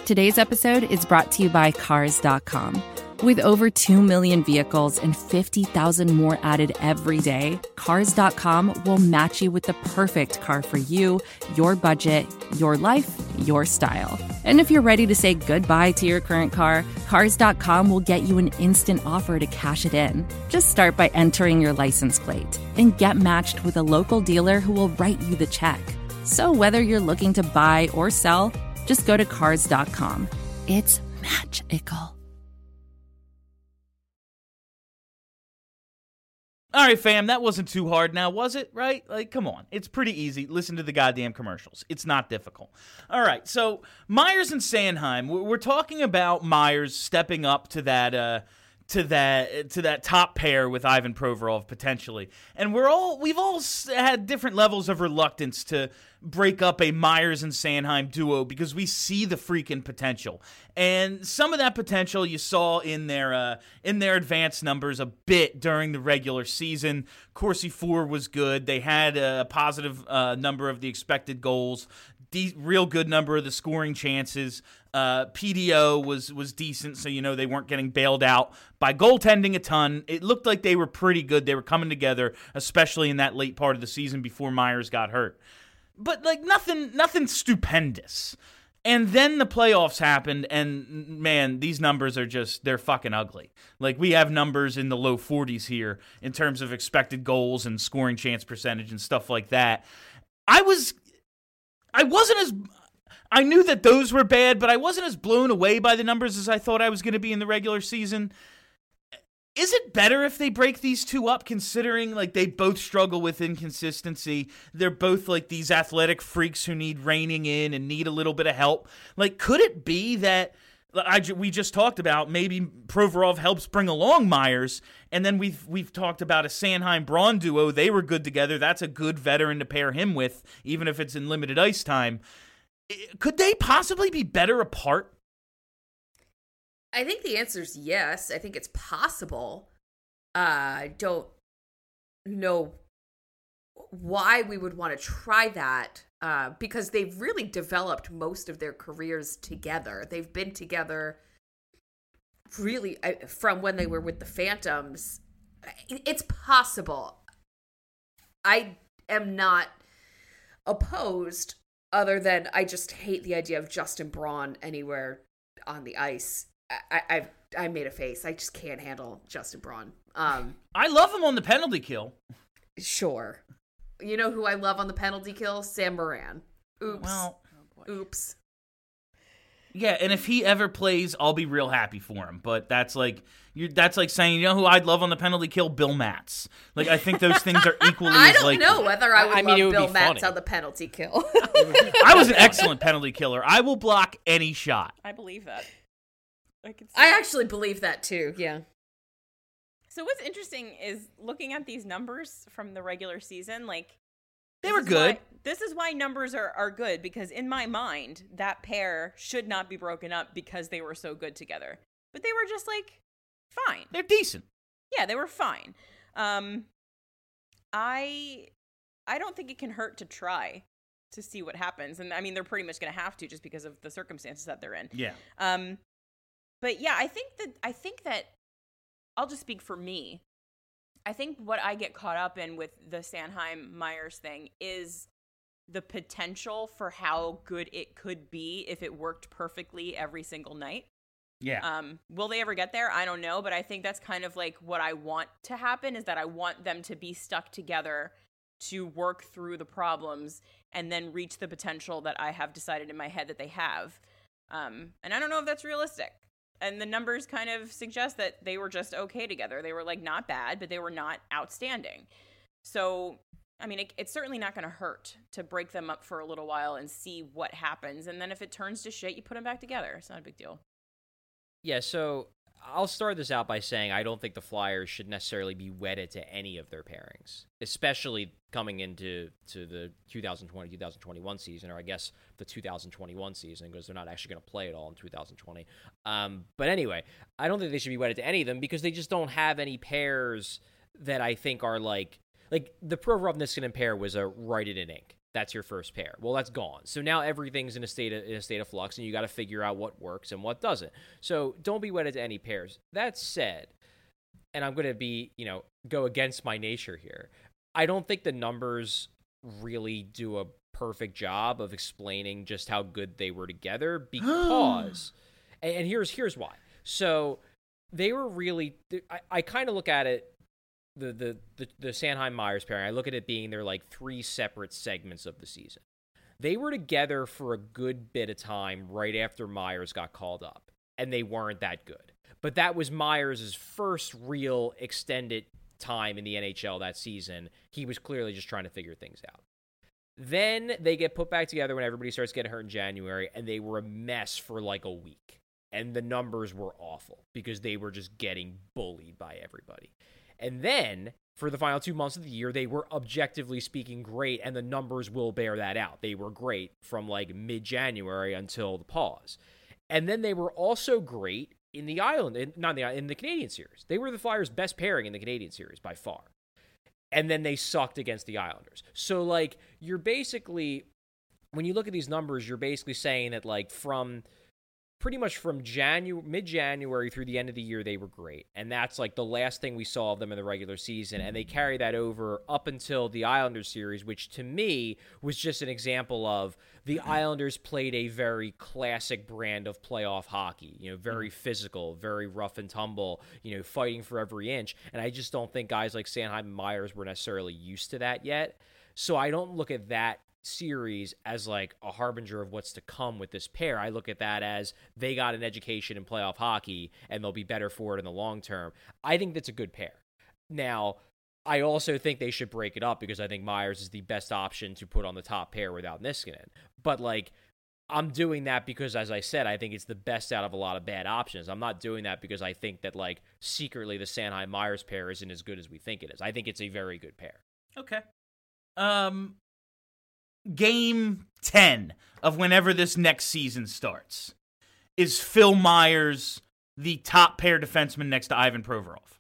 Today's episode is brought to you by Cars.com. With over 2 million vehicles and 50,000 more added every day, Cars.com will match you with the perfect car for you, your budget, your life, your style. And if you're ready to say goodbye to your current car, Cars.com will get you an instant offer to cash it in. Just start by entering your license plate and get matched with a local dealer who will write you the check. So whether you're looking to buy or sell, just go to Cars.com. It's magical. All right, fam, that wasn't too hard now, was it? Right? Like, come on. It's pretty easy. Listen to the goddamn commercials. It's not difficult. All right, so Myers and Sanheim, we're talking about Myers stepping up to that top pair with Ivan Provorov potentially. And we've all had different levels of reluctance to break up a Myers and Sanheim duo because we see the freaking potential. And some of that potential you saw in their advanced numbers a bit during the regular season. Corsi 4 was good. They had a positive number of the expected goals. Real good number of the scoring chances. PDO was decent, so they weren't getting bailed out by goaltending a ton. It looked like they were pretty good. They were coming together, especially in that late part of the season before Myers got hurt. But nothing stupendous. And then the playoffs happened, and man, these numbers are they're fucking ugly. Like, we have numbers in the low 40s here in terms of expected goals and scoring chance percentage and stuff like that. I knew that those were bad, but I wasn't as blown away by the numbers as I thought I was going to be in the regular season. Is it better if they break these two up, considering like they both struggle with inconsistency? They're both like these athletic freaks who need reining in and need a little bit of help. Like, could it be that we just talked about maybe Provorov helps bring along Myers, and then we've talked about a Sanheim-Braun duo. They were good together. That's a good veteran to pair him with, even if it's in limited ice time. Could they possibly be better apart? I think the answer is yes. I think it's possible. I don't know why we would want to try that, because they've really developed most of their careers together. They've been together really from when they were with the Phantoms. It's possible. I am not opposed, other than I just hate the idea of Justin Braun anywhere on the ice. I made a face. I just can't handle Justin Braun. I love him on the penalty kill. Sure. You know who I love on the penalty kill? Sam Moran. Oops. Well, oops. Yeah, and if he ever plays, I'll be real happy for him. But that's like saying, you know who I'd love on the penalty kill? Bill Matz. Like, I think those things are equally I as don't know whether I would love Bill Matz funny. on the penalty kill. I was an excellent penalty killer. I will block any shot. I believe that. I actually believe that too, yeah. So what's interesting is looking at these numbers from the regular season, like, they were good. This is why numbers are good, because in my mind, that pair should not be broken up because they were so good together. But they were just, like, fine. They're decent. Yeah, they were fine. I don't think it can hurt to try to see what happens. And, I mean, they're pretty much going to have to just because of the circumstances that they're in. Yeah. But, yeah, I think that I'll just speak for me. I think what I get caught up in with the Sanheim-Myers thing is the potential for how good it could be if it worked perfectly every single night. Yeah. Will they ever get there? I don't know, but I think that's kind of like what I want to happen, is that I want them to be stuck together to work through the problems and then reach the potential that I have decided in my head that they have. And I don't know if that's realistic. And the numbers kind of suggest that they were just okay together. They were, like, not bad, but they were not outstanding. So, I mean, it's certainly not going to hurt to break them up for a little while and see what happens. And then if it turns to shit, you put them back together. It's not a big deal. Yeah, so I'll start this out by saying I don't think the Flyers should necessarily be wedded to any of their pairings, especially coming into the 2020-2021 season, or I guess the 2021 season, because they're not actually going to play it all in 2020. But anyway, I don't think they should be wedded to any of them because they just don't have any pairs that I think are like the Provorov-Niskanen pair was a write it in ink. That's your first pair. Well, that's gone. So now everything's in a state of flux, and you got to figure out what works and what doesn't. So don't be wedded to any pairs. That said, and I'm going to go against my nature here. I don't think the numbers really do a perfect job of explaining just how good they were together because, and here's why. So they were really. I kind of look at it. The Sanheim-Myers pairing, I look at it being they're like 3 separate segments of the season. They were together for a good bit of time right after Myers got called up, and they weren't that good. But that was Myers' first real extended time in the NHL that season. He was clearly just trying to figure things out. Then they get put back together when everybody starts getting hurt in January, and they were a mess for like a week. And the numbers were awful because they were just getting bullied by everybody. And then, for the final 2 months of the year, they were objectively speaking great, and the numbers will bear that out. They were great from like mid-January until the pause. And then they were also great in the in the Canadian series. They were the Flyers' best pairing in the Canadian series by far. And then they sucked against the Islanders. So like you're basically, when you look at these numbers, you're basically saying that like pretty much from mid-January through the end of the year, they were great. And that's like the last thing we saw of them in the regular season. And they carry that over up until the Islanders series, which to me was just an example of the Islanders played a very classic brand of playoff hockey, very physical, very rough and tumble, fighting for every inch. And I just don't think guys like Sanheim and Myers were necessarily used to that yet. So I don't look at that series as like a harbinger of what's to come with this pair. I look at that as they got an education in playoff hockey and they'll be better for it in the long term. I think that's a good pair. Now, I also think they should break it up because I think Myers is the best option to put on the top pair without Niskanen. But like, I'm doing that because, as I said, I think it's the best out of a lot of bad options. I'm not doing that because I think that like secretly the Sanheim-Myers pair isn't as good as we think it is. I think it's a very good pair. Okay. Game 10 of whenever this next season starts. Is Phil Myers the top pair defenseman next to Ivan Provorov?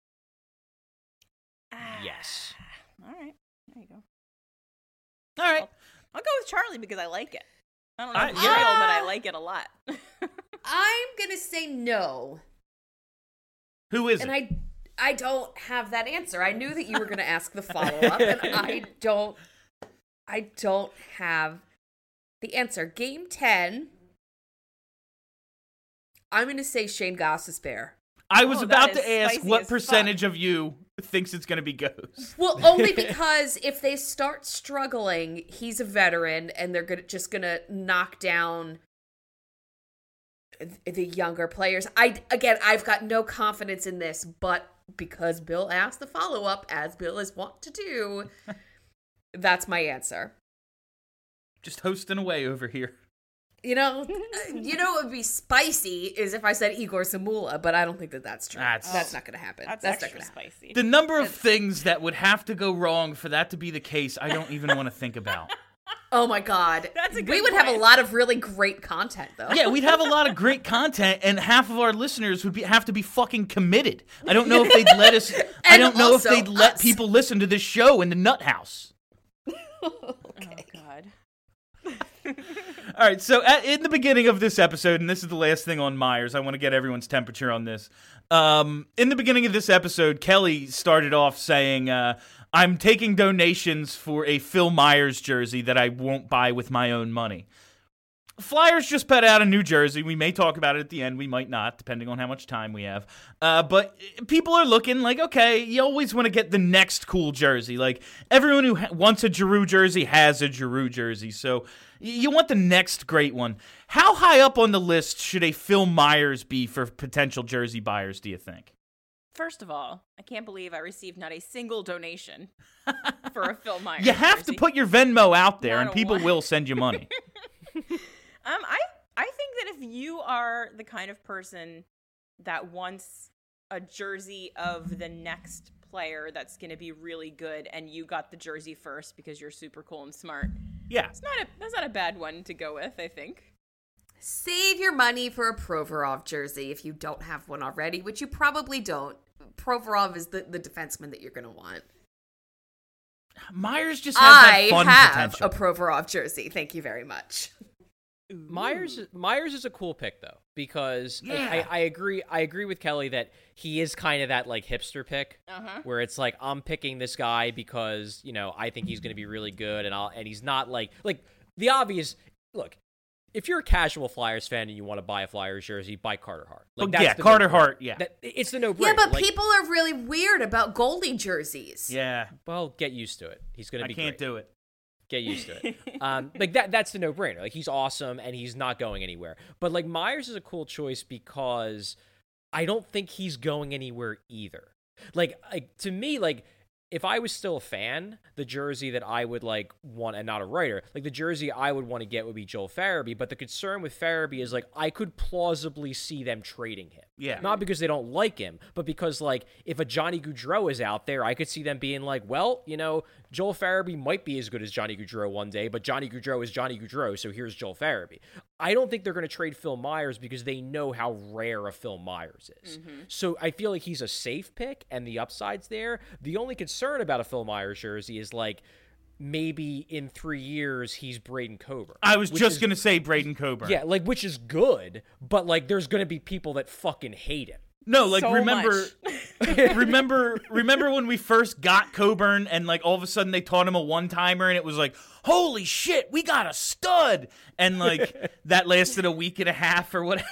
Yes. All right. There you go. All right. I'll go with Charlie because I like it. I don't know if it's yeah. real, but I like it a lot. I'm going to say no. Who is And it? I don't have that answer. I knew that you were going to ask the follow-up, and I don't have the answer. Game 10, I'm going to say Shane Goss's pair. I was about that to is ask spicy what as percentage of you thinks it's going to be Ghost. Well, only because if they start struggling, he's a veteran, and they're just going to knock down the younger players. I've got no confidence in this, but because Bill asked the follow-up, as Bill is wont to do, that's my answer. Just hosting away over here. What would be spicy is if I said Igor Zamula, but I don't think that's true. That's not going to happen. That's not extra gonna happen. spicy. The number of things that would have to go wrong for that to be the case, I don't even want to think about. Oh my God. That's a good We would have a point. lot of really great content, though. Yeah, we'd have a lot of great content, and half of our listeners would have to be fucking committed. I don't know if they'd let us. I And don't know if also they'd let us. people listen to this show in the nut house. Okay. Oh, God. All right, so in the beginning of this episode, and this is the last thing on Myers, I want to get everyone's temperature on this. In the beginning of this episode, Kelly started off saying, I'm taking donations for a Phil Myers jersey that I won't buy with my own money. Flyers just put out a new jersey. We may talk about it at the end. We might not, depending on how much time we have. But people are looking like, okay, you always want to get the next cool jersey. Like, everyone who wants a Giroux jersey has a Giroux jersey. So you want the next great one. How high up on the list should a Phil Myers be for potential jersey buyers, do you think? First of all, I can't believe I received not a single donation for a Phil Myers You have to jersey. put your Venmo out there, Not and a people one. will send you money. I think that if you are the kind of person that wants a jersey of the next player that's going to be really good, and you got the jersey first because you're super cool and smart, Yeah. that's not a bad one to go with, I think. Save your money for a Provorov jersey if you don't have one already, which you probably don't. Provorov is the defenseman that you're going to want. Myers just has that I fun have potential. a Provorov jersey. Thank you very much. Myers is a cool pick though, because like, Yeah. I agree with Kelly that he is kind of that like hipster pick where it's like I'm picking this guy because I think he's going to be really good, and he's not like the obvious look. If you're a casual Flyers fan and you want to buy a Flyers jersey, buy Carter Hart. Like, that's the Carter no-brainer. Hart. Yeah, It's the no-brainer. Yeah, but Like, people are really weird about goalie jerseys. yeah. well, get used to it. He's going to I be can't great. do it. Get used to it. Like that's the no-brainer. Like he's awesome and he's not going anywhere. But like Myers is a cool choice because I don't think he's going anywhere either. Like to me, like if I was still a fan, the jersey that I would like want, and not a writer, like the jersey I would want to get would be Joel Farabee. But the concern with Farabee is like I could plausibly see them trading him. Yeah. Not because they don't like him, but because like if a Johnny Gaudreau is out there, I could see them being like, well, Joel Farabee might be as good as Johnny Gaudreau one day, but Johnny Gaudreau is Johnny Gaudreau, so here's Joel Farabee. I don't think they're going to trade Phil Myers because they know how rare a Phil Myers is. So I feel like he's a safe pick and the upside's there. The only concern about a Phil Myers jersey is like maybe in 3 years he's Braden Coburn. I was just going to say Braden Coburn. Yeah, like which is good, but like there's going to be people that fucking hate him. No, like So remember when we first got Coburn and like all of a sudden they taught him a one-timer and it was like, holy shit, we got a stud, and like that lasted a week and a half or whatever.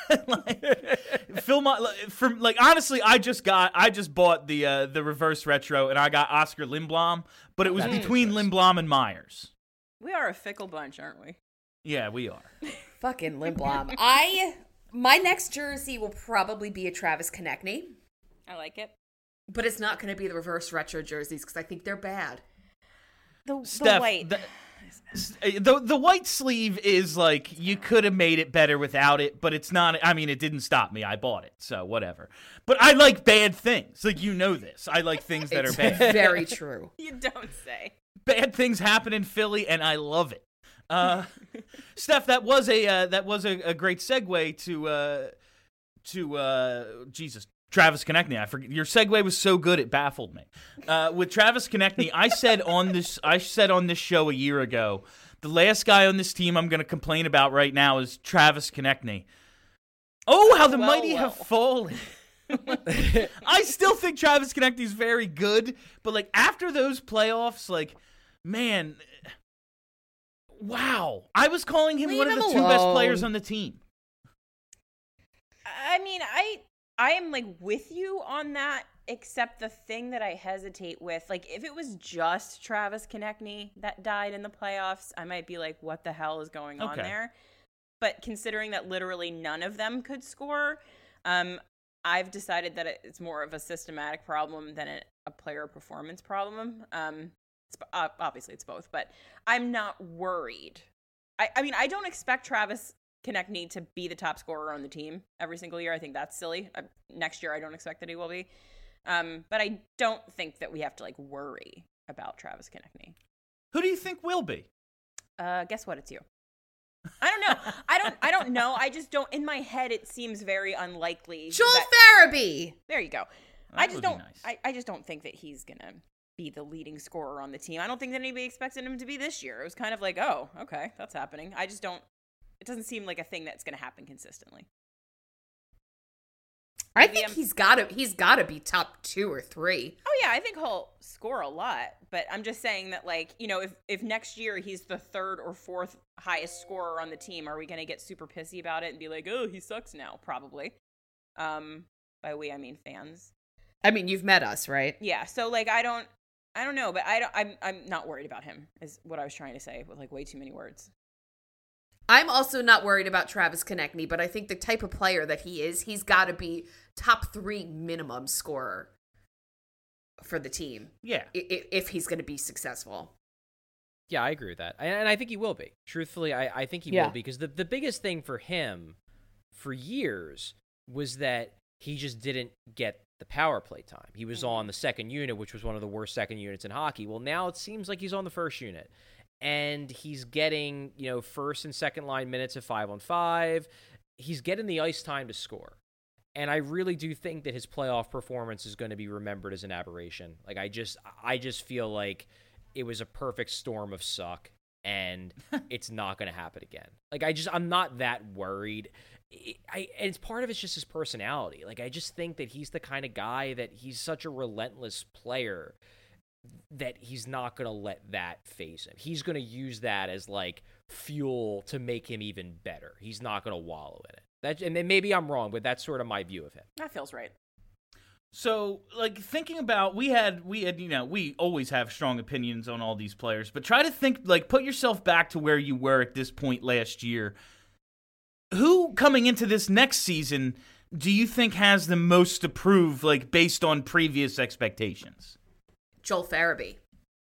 Honestly, I just bought the reverse retro and I got Oscar Lindblom, but it was between Lindblom and Myers. We are a fickle bunch, aren't we? Yeah, we are. Fucking Lindblom. My next jersey will probably be a Travis Konechny, I like it. but it's not going to be the reverse retro jerseys because I think they're bad. The Steph, white. the white sleeve is like you could have made it better without it, but it's not. I mean, it didn't stop me. I bought it, so whatever. But I like bad things. Like this. I like things that are bad. Very true. You don't say. Bad things happen in Philly, and I love it. Steph, that was a great segue to Jesus. Travis Konechny. I forget, your segue was so good it baffled me. With Travis Konechny, I said on this show a year ago, the last guy on this team I'm going to complain about right now is Travis Konechny. Oh, how the mighty have fallen. I still think Travis Konechny is very good, but like after those playoffs, like man, wow. I was calling him one of the two best players on the team. I mean, I am like with you on that, except the thing that I hesitate with, like if it was just Travis Konechny that died in the playoffs, I might be like, what the hell is going on there? But considering that literally none of them could score, I've decided that it's more of a systematic problem than a player performance problem. Obviously it's both, but I'm not worried. I mean, I don't expect Travis Konechny to be the top scorer on the team every single year. I think that's silly. Next year, I don't expect that he will be. But I don't think that we have to like worry about Travis Konechny. Who do you think will be? Guess what? It's you. I don't know. I don't know. I just don't. In my head, it seems very unlikely. Joel Farabee. There you go. I just don't. Nice. I just don't think that he's gonna be the leading scorer on the team. I don't think that anybody expected him to be this year. It was kind of like, oh, okay, that's happening. I just don't. It doesn't seem like a thing that's going to happen consistently. I think he's got to be top 2 or 3. Oh yeah, I think he'll score a lot, but I'm just saying that like, if next year he's the 3rd or 4th highest scorer on the team, are we going to get super pissy about it and be like, "Oh, he sucks now?" Probably. By we I mean fans. I mean, you've met us, right? Yeah, so like I don't know, but I'm not worried about him. Is what I was trying to say with like way too many words. I'm also not worried about Travis Konechny, but I think the type of player that he is, he's got to be top 3 minimum scorer for the team. Yeah. If he's going to be successful. Yeah, I agree with that. And I think he will be. Truthfully, I think he will be. Because the biggest thing for him for years was that he just didn't get the power play time. He was on the second unit, which was one of the worst second units in hockey. Well, now it seems like he's on the first unit. And he's getting, first and second line minutes at 5-on-5. He's getting the ice time to score. And I really do think that his playoff performance is going to be remembered as an aberration. Like I just feel like it was a perfect storm of suck, and it's not going to happen again. Like, I'm not that worried. It's part of it's just his personality. Like, I just think that he's the kind of guy that he's such a relentless player that he's not going to let that phase him. He's going to use that as, like, fuel to make him even better. He's not going to wallow in it. And then maybe I'm wrong, but that's sort of my view of him. That feels right. So, like, thinking about, we always have strong opinions on all these players, but try to think, like, put yourself back to where you were at this point last year. Who, coming into this next season, do you think has the most to prove, like, based on previous expectations? Joel Farabee.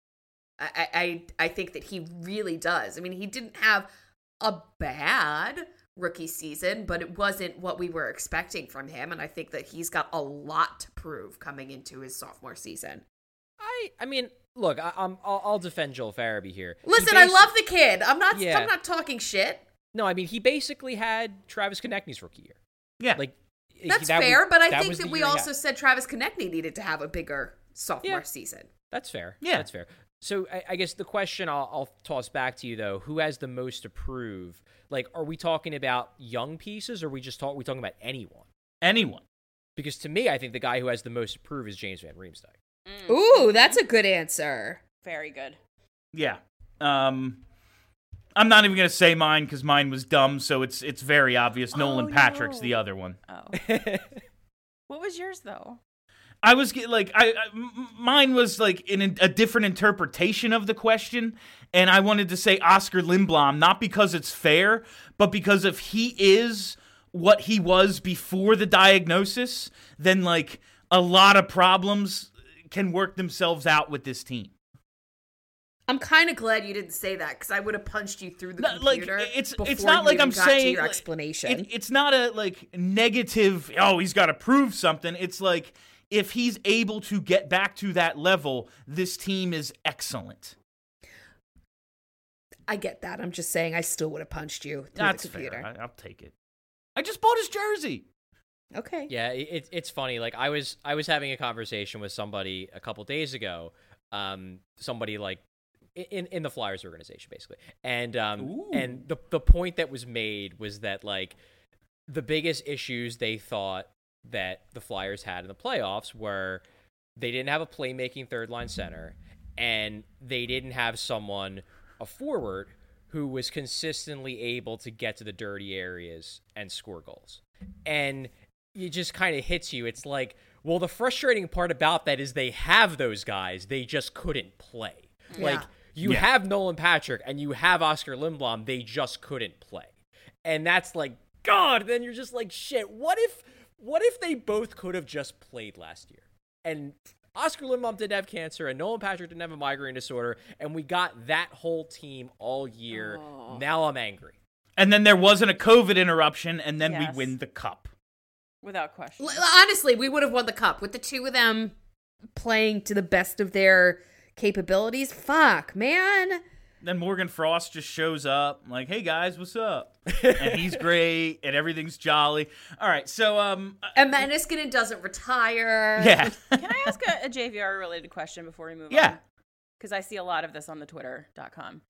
I think that he really does. I mean, he didn't have a bad rookie season, but it wasn't what we were expecting from him, and I think that he's got a lot to prove coming into his sophomore season. I mean, look, I'll defend Joel Farabee here. Listen, I love the kid. I'm not talking shit. No, I mean, he basically had Travis Konechny's rookie year. Yeah. Like, That's fair, but I think that we also said Travis Konechny needed to have a bigger sophomore season. That's fair. Yeah. That's fair. So I guess the question I'll toss back to you, though, who has the most to prove? Like, are we talking about young pieces, or are we talking about anyone? Anyone. Because to me, I think the guy who has the most to prove is James Van Riemsdyk. Ooh, that's a good answer. Very good. Yeah. I'm not even going to say mine because mine was dumb, so it's very obvious. Nolan Patrick's the other one. Oh. What was yours, though? I was like, mine was like in a different interpretation of the question, and I wanted to say Oscar Lindblom, not because it's fair, but because if he is what he was before the diagnosis, then like a lot of problems can work themselves out with this team. I'm kind of glad you didn't say that, because I would have punched you through the computer. It's before not you like even I'm got saying to your like, explanation. It's not a like negative. Oh, he's got to prove something. It's like if he's able to get back to that level, this team is excellent. I get that. I'm just saying I still would have punched you through That's the computer. fair. I'll take it. I just bought his jersey. Okay. Yeah, it's funny. Like, I was having a conversation with somebody a couple days ago. Somebody like in the Flyers organization, basically, and the point that was made was that like the biggest issues they thought that the Flyers had in the playoffs were they didn't have a playmaking third line center, and they didn't have a forward who was consistently able to get to the dirty areas and score goals. And it just kind of hits you. It's like, well, the frustrating part about that is they have those guys, they just couldn't play. Yeah. Like, you have Nolan Patrick and you have Oscar Lindblom, they just couldn't play. And that's like, God, then you're just like, shit, what if they both could have just played last year? And Oscar Lindblom didn't have cancer and Nolan Patrick didn't have a migraine disorder, and we got that whole team all year. Oh. Now I'm angry. And then there wasn't a COVID interruption, and then Yes. we win the cup. Without question. Honestly, we would have won the cup with the two of them playing to the best of their capabilities. Fuck, man. Then Morgan Frost just shows up, like, "Hey guys, what's up?" And he's great, and everything's jolly. All right, so And Niskanen doesn't retire. yeah, Can I ask a JVR related question before we move on? yeah. Because I see a lot of this on the Twitter.com.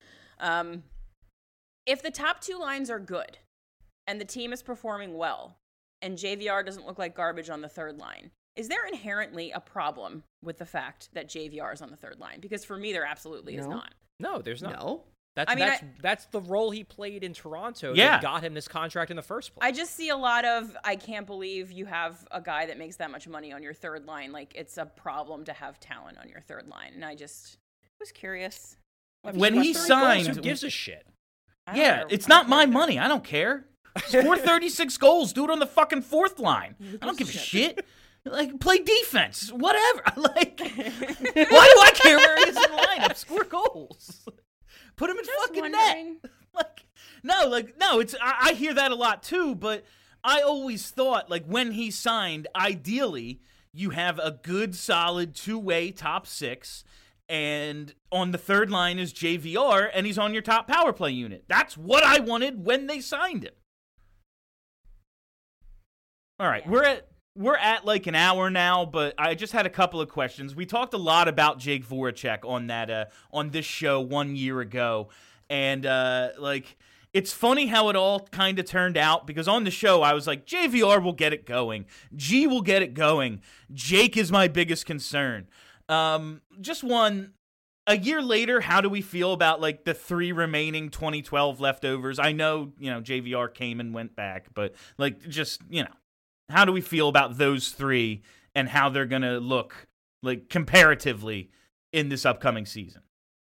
If the top two lines are good and the team is performing well and JVR doesn't look like garbage on the third line, is there inherently a problem with the fact that JVR is on the third line? Because for me, there absolutely is not. No, there's not. No. That's the role he played in Toronto Yeah. that got him this contract in the first place. I just see a lot of, I can't believe you have a guy that makes that much money on your third line. Like, it's a problem to have talent on your third line. And I just was curious. When he signed, Who gives a shit? I don't yeah, care. it's I don't not my care. money. I don't care. Score 36 goals. Do it on the fucking fourth line. I don't give a shit. Like, play defense. Whatever. Like, why do I care where he is in the lineup? Score goals. Put him in Just fucking wondering. net. No, it's I hear that a lot too, but I always thought, like, when he signed, ideally, you have a good, solid two-way top six, and on the third line is JVR, and he's on your top power play unit. That's what I wanted when they signed him. All right, we're at we're at like an hour now, but I just had a couple of questions. We talked a lot about Jake Voracek on that on this show 1 year ago, and like it's funny how it all kind of turned out, because on the show I was like, JVR will get it going, G will get it going, Jake is my biggest concern. Just one. A year later, how do we feel about like the 3 remaining 2012 leftovers? I know, JVR came and went back, but like just, how do we feel about those 3 and how they're going to look like comparatively in this upcoming season?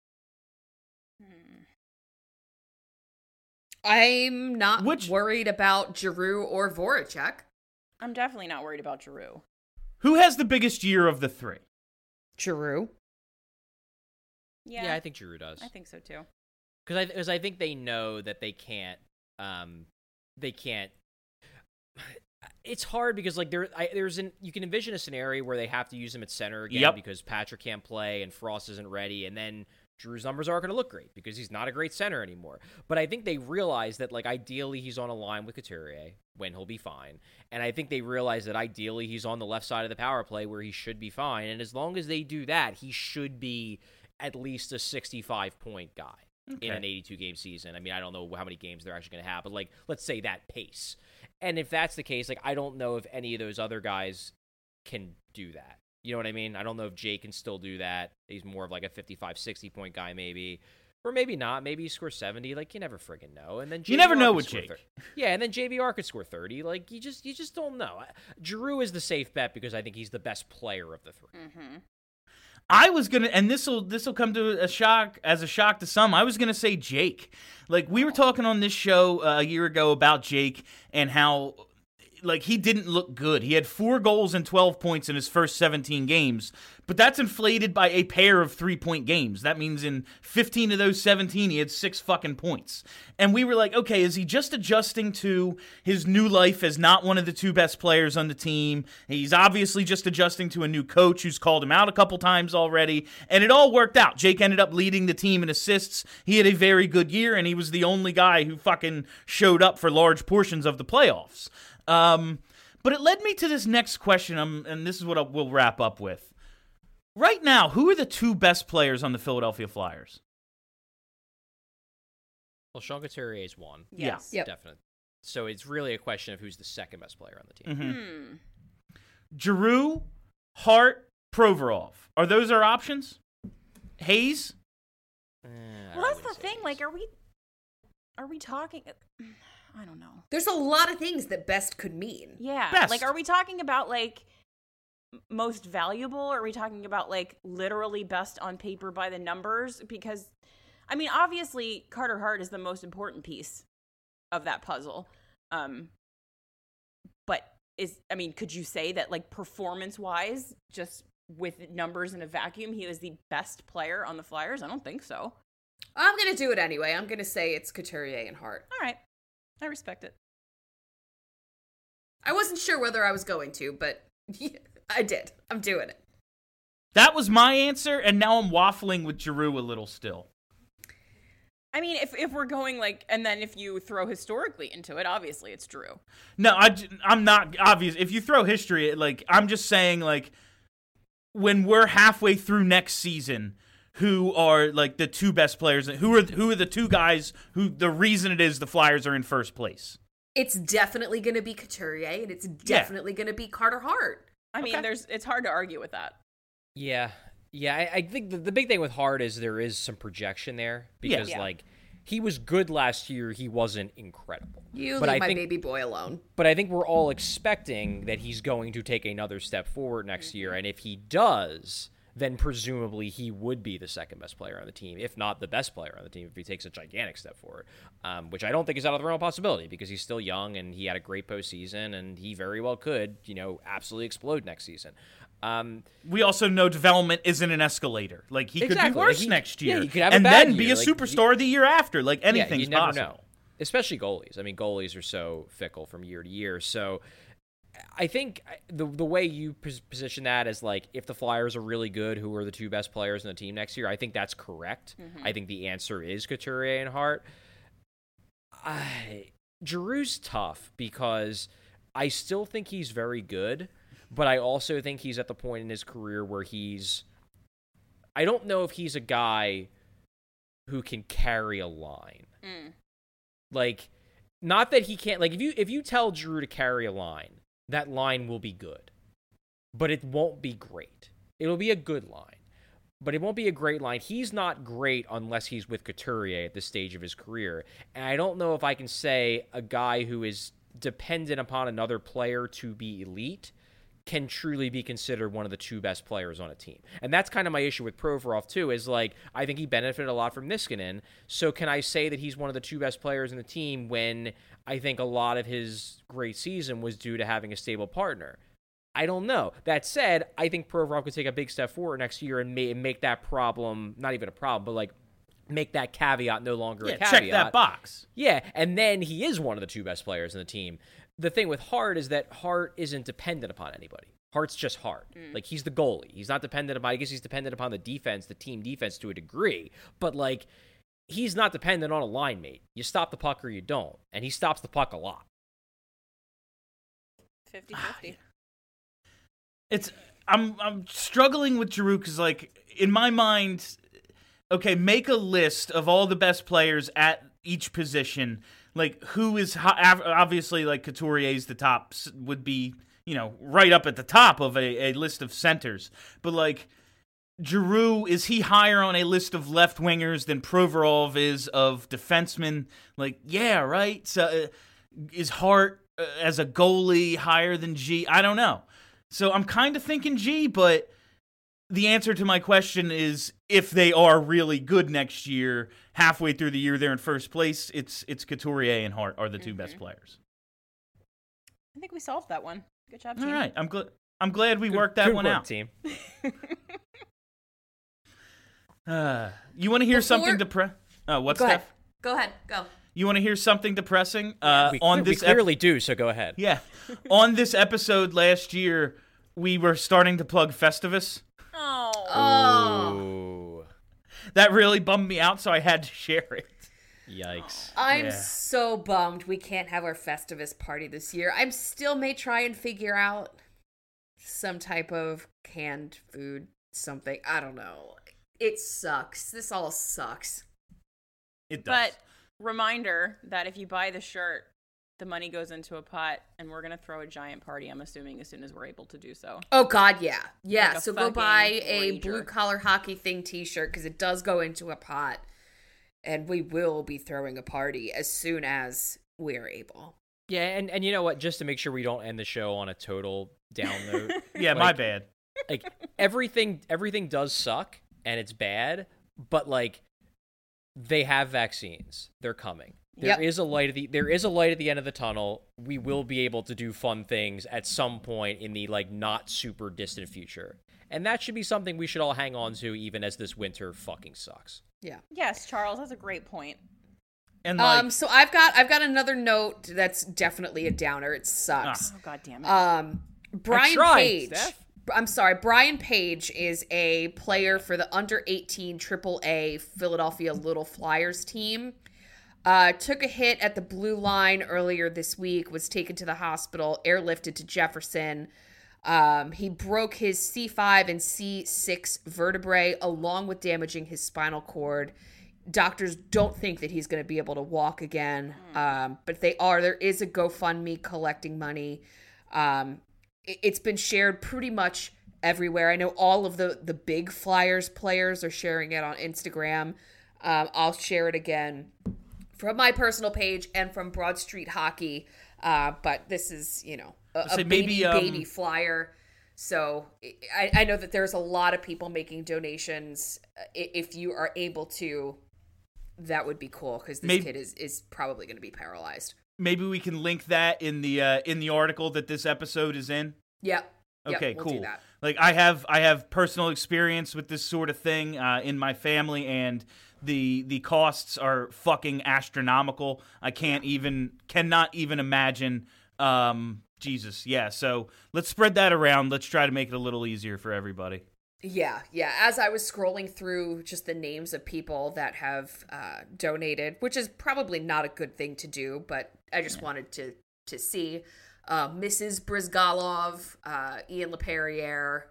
I'm not worried about Giroux or Voracek. I'm definitely not worried about Giroux. Who has the biggest year of the 3? Giroux. Yeah, I think Giroux does. I think so too. Because I think they know that they can't. It's hard because like you can envision a scenario where they have to use him at center again because Patrick can't play and Frost isn't ready, and then Drew's numbers aren't going to look great because he's not a great center anymore. But I think they realize that like ideally he's on a line with Couturier when he'll be fine, and I think they realize that ideally he's on the left side of the power play where he should be fine, and as long as they do that, he should be at least a 65-point guy in an 82-game season. I mean, I don't know how many games they're actually going to have, but, like, let's say that pace. And if that's the case, like, I don't know if any of those other guys can do that. You know what I mean? I don't know if Jake can still do that. He's more of, like, a 55, 60-point guy maybe. Or maybe not. Maybe he scores 70. Like, you never friggin' know. And then you never know with Jake. Yeah, and then JVR could score 30. Like, you just don't know. Giroux is the safe bet because I think he's the best player of the 3. Mm-hmm. I was gonna, and this will come to a shock to some. I was gonna say Jake. Like we were talking on this show a year ago about Jake and how like he didn't look good. He had 4 goals and 12 points in his first 17 games, but that's inflated by a pair of 3-point games. That means in 15 of those 17, he had 6 fucking points. And we were like, okay, is he just adjusting to his new life as not one of the 2 best players on the team? He's obviously just adjusting to a new coach who's called him out a couple times already, and it all worked out. Jake ended up leading the team in assists. He had a very good year, and he was the only guy who fucking showed up for large portions of the playoffs. But it led me to this next question, and this is what we'll wrap up with. Right now, who are the 2 best players on the Philadelphia Flyers? Well, Sean Couturier is 1. Yes. Yep. Definitely. So it's really a question of who's the second best player on the team. Mm-hmm. Giroux, Hart, Provorov. Are those our options? Hayes? Well, that's the thing. Like, are we talking? I don't know. There's a lot of things that best could mean. Yeah. Best. Like, are we talking about, like, most valuable? Or are we talking about, like, literally best on paper by the numbers? Because, I mean, obviously, Carter Hart is the most important piece of that puzzle. But could you say that, like, performance-wise, just with numbers in a vacuum, he was the best player on the Flyers? I don't think so. I'm going to do it anyway. I'm going to say it's Couturier and Hart. All right. I respect it. I wasn't sure whether I was going to, but I did. I'm doing it. That was my answer, and now I'm waffling with Giroux a little still. I mean, if we're going, like, and then if you throw historically into it, obviously it's Drew. No, I'm not obvious. If you throw history, like, I'm just saying, like, when we're halfway through next season, who are like the 2 best players? Who are the 2 guys who the reason it is the Flyers are in first place? It's definitely going to be Couturier, and it's definitely going to be Carter Hart. I mean, it's hard to argue with that. Yeah. I think the big thing with Hart is there is some projection there because like he was good last year. He wasn't incredible. You leave my baby boy alone. But I think we're all expecting that he's going to take another step forward next year, and if he does, then presumably he would be the second best player on the team, if not the best player on the team, if he takes a gigantic step forward, which I don't think is out of the realm of possibility because he's still young and he had a great postseason and he very well could, absolutely explode next season. We also know development isn't an escalator. Like, he could be worse next year. Yeah, he could have and a bad then be year. a superstar the year after. Like, anything's you never possible. know. Especially goalies. I mean, goalies are so fickle from year to year. So I think the way you position that is like, if the Flyers are really good, who are the 2 best players on the team next year? I think that's correct. Mm-hmm. I think the answer is Couturier and Hart. Giroux's tough because I still think he's very good, but I also think he's at the point in his career where I don't know if he's a guy who can carry a line. Like, not that he can't, like, if you tell Drew to carry a line, that line will be good, but it won't be great. It'll be a good line, but it won't be a great line. He's not great unless he's with Couturier at this stage of his career, and I don't know if I can say a guy who is dependent upon another player to be elite can truly be considered one of the two best players on a team. And that's kind of my issue with Provorov too, is like, I think he benefited a lot from Niskanen. So can I say that he's one of the two best players in the team when I think a lot of his great season was due to having a stable partner? I don't know. That said, I think Provorov could take a big step forward next year and make that problem, not even a problem, but like make that caveat no longer a caveat. Check that box. Yeah, and then he is one of the two best players in the team. The thing with Hart is that Hart isn't dependent upon anybody. Hart's just Hart. Like, he's the goalie. He's not dependent upon, I guess he's dependent upon the defense, the team defense to a degree, but like, he's not dependent on a line mate. You stop the puck or you don't, and he stops the puck a lot. 50-50. I'm struggling with Giroux because, like, in my mind, okay, make a list of all the best players at each position. Like, who is obviously, like, Couturier's the top, would be, you know, right up at the top of a list of centers. But, like, Giroux, is he higher on a list of left wingers than Provorov is of defensemen? Like, yeah, right? So, is Hart as a goalie higher than G? I don't know. So I'm kind of thinking G, but the answer to my question is, if they are really good next year, halfway through the year they're in first place, it's Couturier and Hart are the two best players. I think we solved that one. Good job, team. All right, I'm glad we worked that one out. Team. You want to hear something depressing? What's Go that? ahead. Go ahead. Go. You want to hear something depressing? We clearly do, so go ahead. Yeah. On this episode last year, we were starting to plug Festivus. Oh. That really bummed me out, so I had to share it. Yikes. I'm so bummed we can't have our Festivus party this year. I still may try and figure out some type of canned food, something. I don't know. It sucks. This all sucks. It does. But reminder that if you buy the shirt, the money goes into a pot, and we're going to throw a giant party, I'm assuming, as soon as we're able to do so. Oh, God, yeah. Yeah, Like a so go fucking buy a rager. blue-collar hockey thing t-shirt, because it does go into a pot, and we will be throwing a party as soon as we're able. Yeah, and you know what? Just to make sure we don't end the show on a total down note. Yeah, my bad. Like, everything does suck, and it's bad, but, like, they have vaccines. They're coming. There is a light at the end of the tunnel. We will be able to do fun things at some point in the, like, not super distant future. And that should be something we should all hang on to, even as this winter fucking sucks. Yeah. Yes, Charles, that's a great point. And like, So I've got another note that's definitely a downer. It sucks. Oh, God damn it. Brian tried, Page. Steph. I'm sorry. Brian Page is a player for the under 18 AAA Philadelphia Little Flyers team. Took a hit at the blue line earlier this week, was taken to the hospital, airlifted to Jefferson. He broke his C5 and C6 vertebrae, along with damaging his spinal cord. Doctors don't think that he's going to be able to walk again, but there is a GoFundMe collecting money. It's been shared pretty much everywhere. I know all of the big Flyers players are sharing it on Instagram. I'll share it again from my personal page and from Broad Street Hockey. But this is, a baby Flyer. So I know that there's a lot of people making donations. If you are able to, that would be cool, because this kid is probably going to be paralyzed. maybe we can link that in the article that this episode is in. Yep. Okay, we'll cool. do that. Like I have personal experience with this sort of thing in my family, and the costs are fucking astronomical. I cannot even imagine. Jesus, yeah. So let's spread that around. Let's try to make it a little easier for everybody. Yeah. As I was scrolling through just the names of people that have donated, which is probably not a good thing to do, but I just wanted to to see. Mrs. Brizgalov, Ian LePerriere,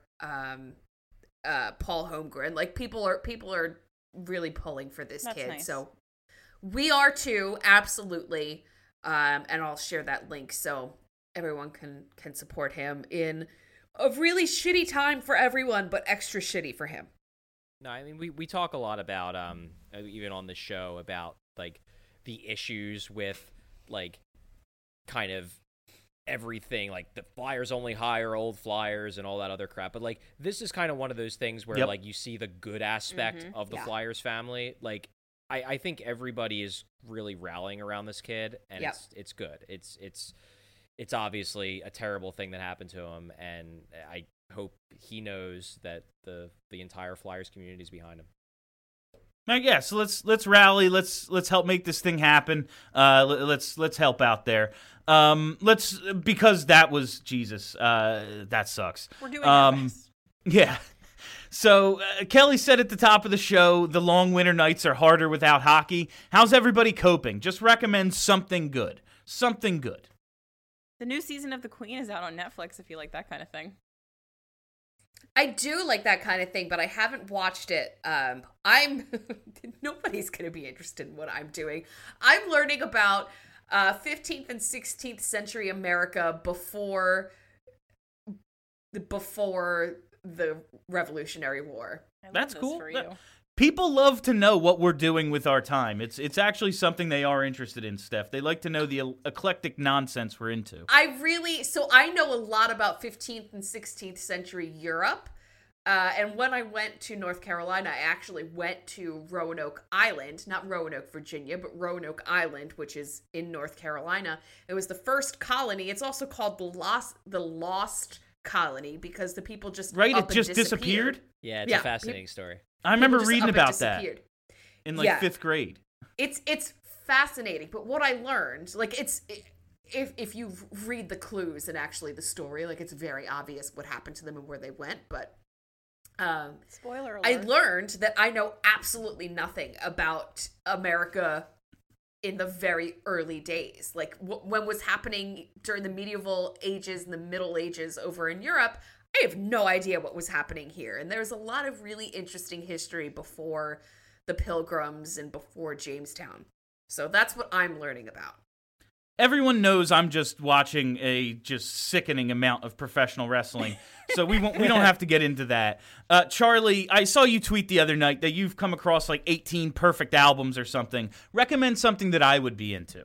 Paul Holmgren. Like, people are really pulling for this That's kid. nice. So we are too, absolutely. And I'll share that link so everyone can support him in a really shitty time for everyone, but extra shitty for him. No, I mean, we talk a lot about, even on the show, about, like, the issues with, like, kind of everything, like the Flyers only hire old Flyers and all that other crap. But, like, this is kind of one of those things where, like, you see the good aspect of the Flyers family. Like, I think everybody is really rallying around this kid, and it's good. It's obviously a terrible thing that happened to him, and I hope he knows that the entire Flyers community is behind him. Yeah, so let's rally. Let's help make this thing happen. Let's help out there. Because that was Jesus. That sucks. We're doing our best. Yeah. So Kelly said at the top of the show, the long winter nights are harder without hockey. How's everybody coping? Just recommend something good. Something good. The new season of The Queen is out on Netflix if you like that kind of thing. I do like that kind of thing, but I haven't watched it. Nobody's going to be interested in what I'm doing. I'm learning about 15th and 16th century America before the Revolutionary War. I love That's this cool. for you. People love to know what we're doing with our time. It's actually something they are interested in, Steph. They like to know the eclectic nonsense we're into. I know a lot about 15th and 16th century Europe. And when I went to North Carolina, I actually went to Roanoke Island, not Roanoke, Virginia, but Roanoke Island, which is in North Carolina. It was the first colony. It's also called the Lost Colony because the people just it just disappeared. Yeah, it's a fascinating story. I remember People just reading up and about that disappeared. in like 5th grade. It's fascinating, but what I learned, like, if you read the clues and actually the story, like, it's very obvious what happened to them and where they went, but spoiler alert. I learned that I know absolutely nothing about America in the very early days. Like, when was happening during the medieval ages and the Middle Ages over in Europe, I have no idea what was happening here. And there's a lot of really interesting history before the Pilgrims and before Jamestown. So that's what I'm learning about. Everyone knows I'm just watching a just sickening amount of professional wrestling, so we don't have to get into that. Charlie, I saw you tweet the other night that you've come across like 18 perfect albums or something. Recommend something that I would be into.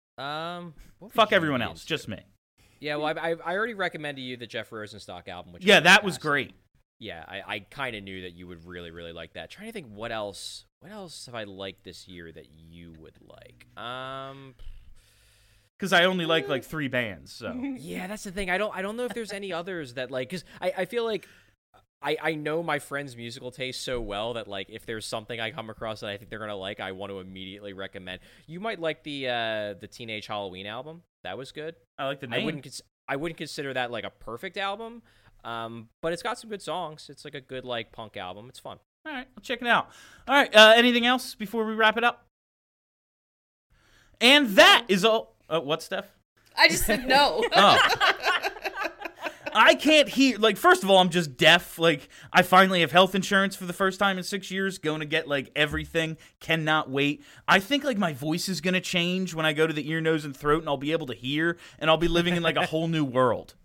Fuck everyone else, just me. Yeah, well, I already recommended you the Jeff Rosenstock album. Which that was great. Yeah, I kind of knew that you would really, really like that. Trying to think what else have I liked this year that you would like? Because I only like 3 bands, so. Yeah, that's the thing. I don't know if there's any others that, like, because I feel like I know my friends' musical taste so well that, like, if there's something I come across that I think they're gonna like, I want to immediately recommend. You might like the Teenage Halloween album. That was good. I like the name. I wouldn't consider that like a perfect album, but it's got some good songs. It's like a good like punk album. It's fun. All right, I'll check it out. All right, anything else before we wrap it up? And that is all. What, Steph? I just said no. I can't hear. Like, first of all, I'm just deaf. Like, I finally have health insurance for the first time in 6 years. Going to get, like, everything. Cannot wait. I think, like, my voice is going to change when I go to the ear, nose, and throat, and I'll be able to hear, and I'll be living in, like, a whole new world.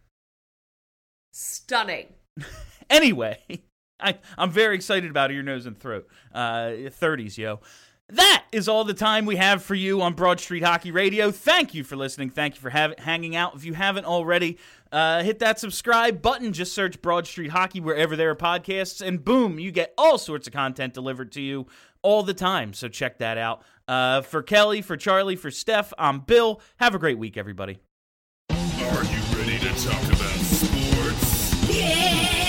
Stunning. Anyway, I'm very excited about ear, nose, and throat. 30s, yo. That is all the time we have for you on Broad Street Hockey Radio. Thank you for listening. Thank you for hanging out. If you haven't already, hit that subscribe button. Just search Broad Street Hockey wherever there are podcasts, and boom, you get all sorts of content delivered to you all the time. So check that out. For Kelly, for Charlie, for Steph, I'm Bill. Have a great week, everybody. Are you ready to talk about sports? Yeah!